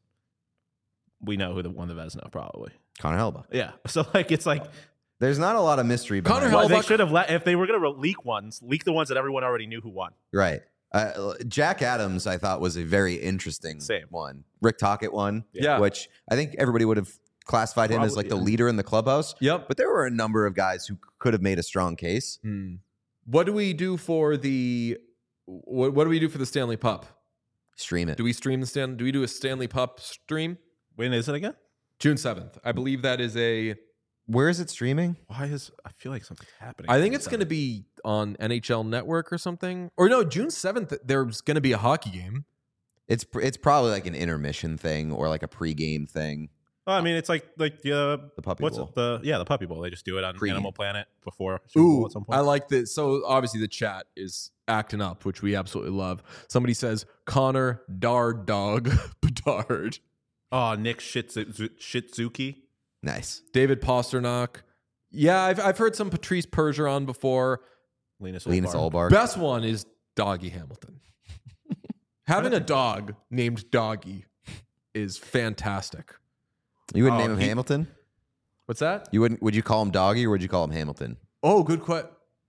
we know who won the Vezina probably. Connor Hellebuyck. Yeah. So like it's like there's not a lot of mystery behind Connor it. They should have if they were going to leak the ones that everyone already knew who won. Right. Jack Adams, I thought, was a very interesting one. Rick Tocchet won. Yeah. Which I think everybody would have classified him as like the leader in the clubhouse. Yep. But there were a number of guys who could have made a strong case. What do we do for the what do we do for the Stanley Pup? Stream it. Do we stream the Stanley? Do we do a Stanley Pup stream? When is it again? June 7th. I believe that is a. Where is it streaming? I feel like something's happening. I think it's going to be on NHL Network or something. Or no, June 7th. There's going to be a hockey game. It's probably like an intermission thing or like a pregame thing. Oh, I mean, it's like the Puppy Bowl. The Puppy Bowl. They just do it on Animal Planet before Super Bowl at some point. I like this. So obviously the chat is acting up, which we absolutely love. Somebody says Connor Dard Dog Bedard. Oh, Nick Shitzuki. Nice. David Pasternak. Yeah, I've heard some Patrice Bergeron before. Linus Ullmark. Best one is Doggy Hamilton. Having a dog named Doggy is fantastic. You wouldn't name him Hamilton? What's that? You wouldn't? Would you call him Doggy or would you call him Hamilton? Oh, good question.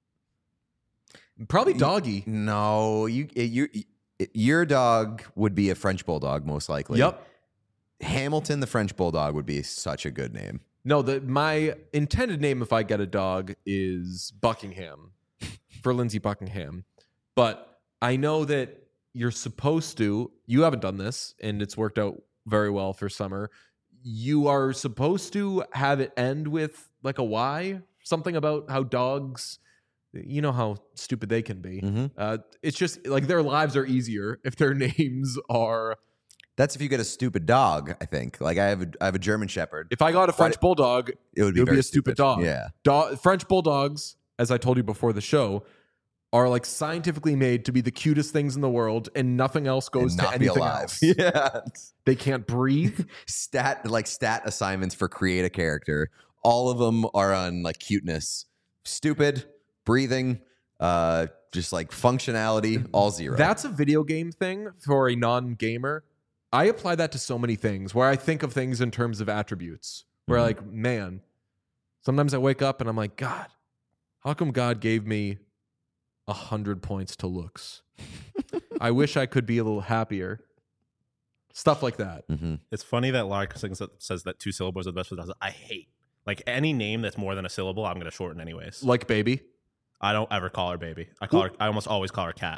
Probably Doggy. No, your dog would be a French Bulldog most likely. Yep. Hamilton, the French Bulldog, would be such a good name. No, my intended name if I get a dog is Buckingham for Lindsey Buckingham. But I know that you're supposed to, you haven't done this and it's worked out very well for summer. You are supposed to have it end with like a Y, something about how dogs, you know how stupid they can be. Mhm. It's just like their lives are easier if their names are. That's if you get a stupid dog, I think. Like I have a German Shepherd. If I got a French bulldog, It would be, it would very be a stupid dog. Yeah. French bulldogs, as I told you before the show, are like scientifically made to be the cutest things in the world, and nothing else goes And to not be anything alive. else. Yeah. They can't breathe. Stat assignments for create a character. All of them are on like cuteness. Stupid, breathing, just like functionality, all 0. That's a video game thing for a non-gamer. I apply that to so many things where I think of things in terms of attributes. Where like, man, sometimes I wake up and I'm like, God, how come God gave me 100 points to looks? I wish I could be a little happier. Stuff like that. Mm-hmm. It's funny that Lark says that 2 syllables are the best for that. I hate like any name that's more than a syllable. I'm going to shorten anyways. Like baby. I don't ever call her baby. I almost always call her cat.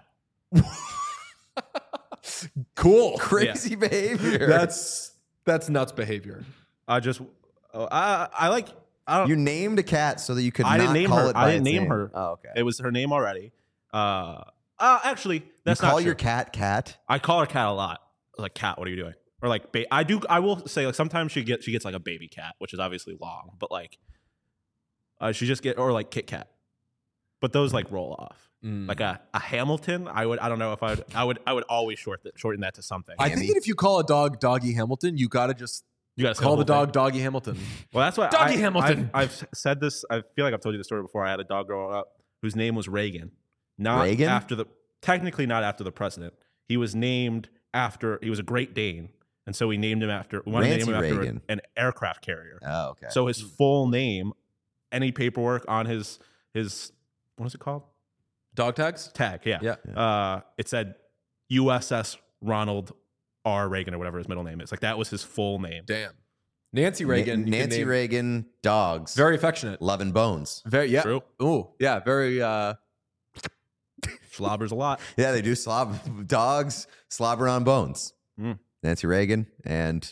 Cool. Crazy behavior. That's nuts behavior. I just I like I don't. You named a cat so that you could I not didn't name call her. it by I didn't its name name. her. Oh, okay. It was her name already. Actually, that's you call not your true. cat? I call her cat a lot. Like, cat, what are you doing? Or like, I will say like sometimes she gets like a baby cat, which is obviously long, but like, she just or like Kit Kat, but those like roll off. Like a Hamilton, I don't know if I would always shorten that to something. I think that if you call a dog Doggy Hamilton, you gotta just You got to call the dog Doggy Hamilton. Well, that's why Doggy Hamilton. I've said this. I feel like I've told you the story before. I had a dog growing up whose name was Reagan. Reagan? Technically not after the president. He was named after. He was a Great Dane, and so we named him after. We wanted to name him Rancy after Reagan. an aircraft carrier. Oh, okay. So his full name, any paperwork on his what is it called? Dog tags? Tag. Yeah. Yeah. It said USS Ronald R. Reagan or whatever his middle name is. Like that was his full name. Damn. Nancy Reagan. you can Nancy name- Reagan, dogs. Very affectionate. Love and bones. Very, yeah. True. Ooh, yeah. Very, Slobbers a lot. Yeah, they do dogs slobber on bones. Mm. Nancy Reagan and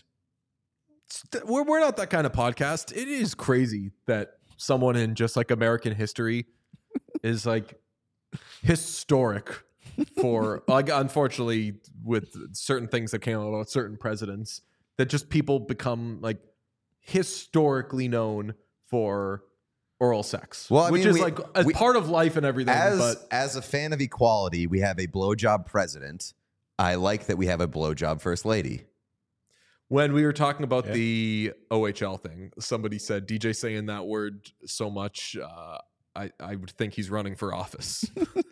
we're not that kind of podcast. It is crazy that someone in just like American history is like historic for like, unfortunately, with certain things that came out about certain presidents, that just people become like historically known for oral sex. Well, I which mean, is like a part of life and everything. But as a fan of equality, we have a blowjob president. I like that we have a blowjob first lady. when we were talking about the OHL thing, somebody said DJ saying that word so much, I would think he's running for office.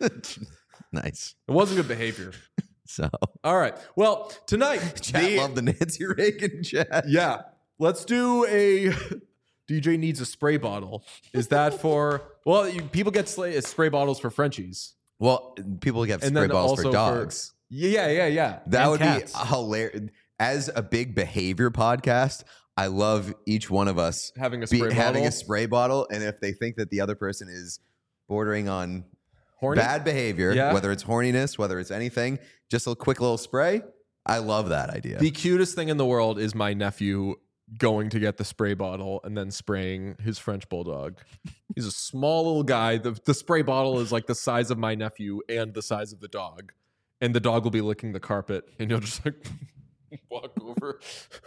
Nice. It wasn't good behavior. So All right. Well, tonight, chat love the Nancy Reagan chat. yeah, let's do a DJ needs a spray bottle. Is that for, well, people get spray bottles for Frenchies. Well, people get And spray then bottles also for dogs. Yeah. That And would cats. be hilarious. As a big behavior podcast, I love each one of us Having a spray bottle. having a spray bottle, and if they think that the other person is bordering on Horny? bad behavior, Yeah. whether it's horniness, whether it's anything, just a quick little spray. I love that idea. The cutest thing in the world is my nephew going to get the spray bottle and then spraying his French bulldog. He's a small little guy. The spray bottle is like the size of my nephew and the size of the dog. And the dog will be licking the carpet and you'll just like walk over.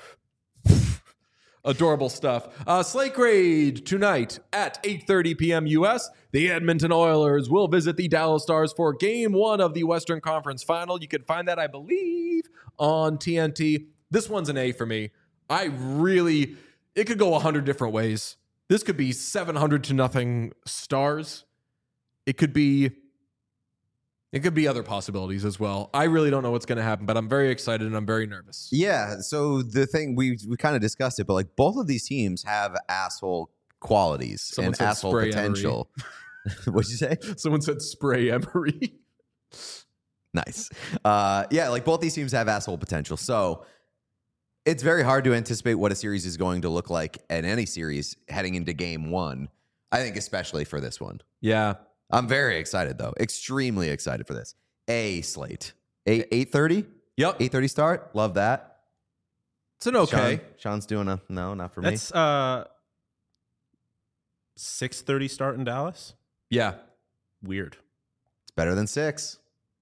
Adorable stuff. Slate Grade tonight at 8:30 p.m. U.S. The Edmonton Oilers will visit the Dallas Stars for Game 1 of the Western Conference Final. You can find that, I believe, on TNT. This one's an A for me. It could go 100 different ways. This could be 700-0 Stars. It could be other possibilities as well. I really don't know what's going to happen, but I'm very excited and I'm very nervous. Yeah. So the thing we kind of discussed it, but like both of these teams have asshole qualities Someone and said asshole spray potential. What'd you say? Someone said spray Emery. Nice. Yeah, like both these teams have asshole potential. So it's very hard to anticipate what a series is going to look like in any series heading into Game 1. I think especially for this one. Yeah. I'm very excited though. Extremely excited for this. A slate. 8:30? Yep. 8:30 start. Love that. It's an okay. Sean's doing a no, not for me. That's 6:30 start in Dallas. Yeah. weird. It's better than 6.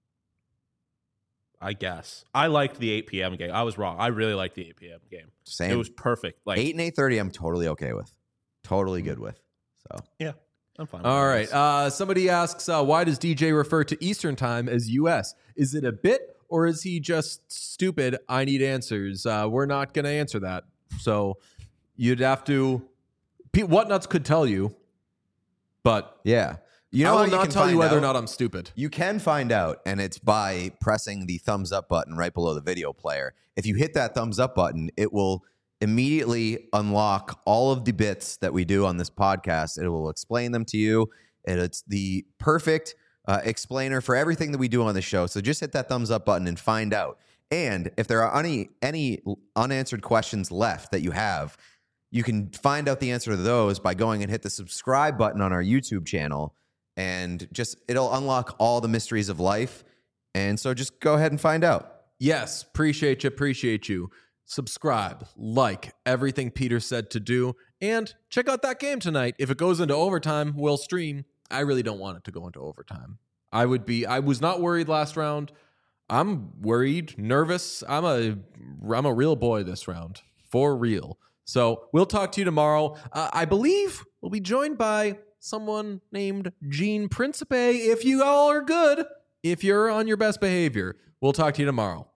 I guess. I liked the 8 p.m. game. I was wrong. I really liked the 8 p.m. game. Same. It was perfect. Like 8 and 8:30, I'm totally okay with. Totally good with. So yeah, I'm fine. All right. Somebody asks, why does DJ refer to Eastern time as U.S.? Is it a bit or is he just stupid? I need answers. We're not going to answer that. So you'd have to. Whatnuts could tell you, but yeah. I will not tell you whether or not I'm stupid. You can find out, and it's by pressing the thumbs up button right below the video player. If you hit that thumbs up button, it will immediately unlock all of the bits that we do on this podcast. It will explain them to you. And it's the perfect explainer for everything that we do on the show. So just hit that thumbs up button and find out. And if there are any unanswered questions left that you have, you can find out the answer to those by going and hit the subscribe button on our YouTube channel. And just it'll unlock all the mysteries of life. And so just go ahead and find out. Yes, appreciate you. Subscribe, like everything Peter said to do, and check out that game tonight. If it goes into overtime, we'll stream. I really don't want it to go into overtime. I was not worried last round. I'm worried, nervous. I'm a real boy this round, for real. So we'll talk to you tomorrow. I believe we'll be joined by someone named Gene Principe. If you all are good, if you're on your best behavior, we'll talk to you tomorrow.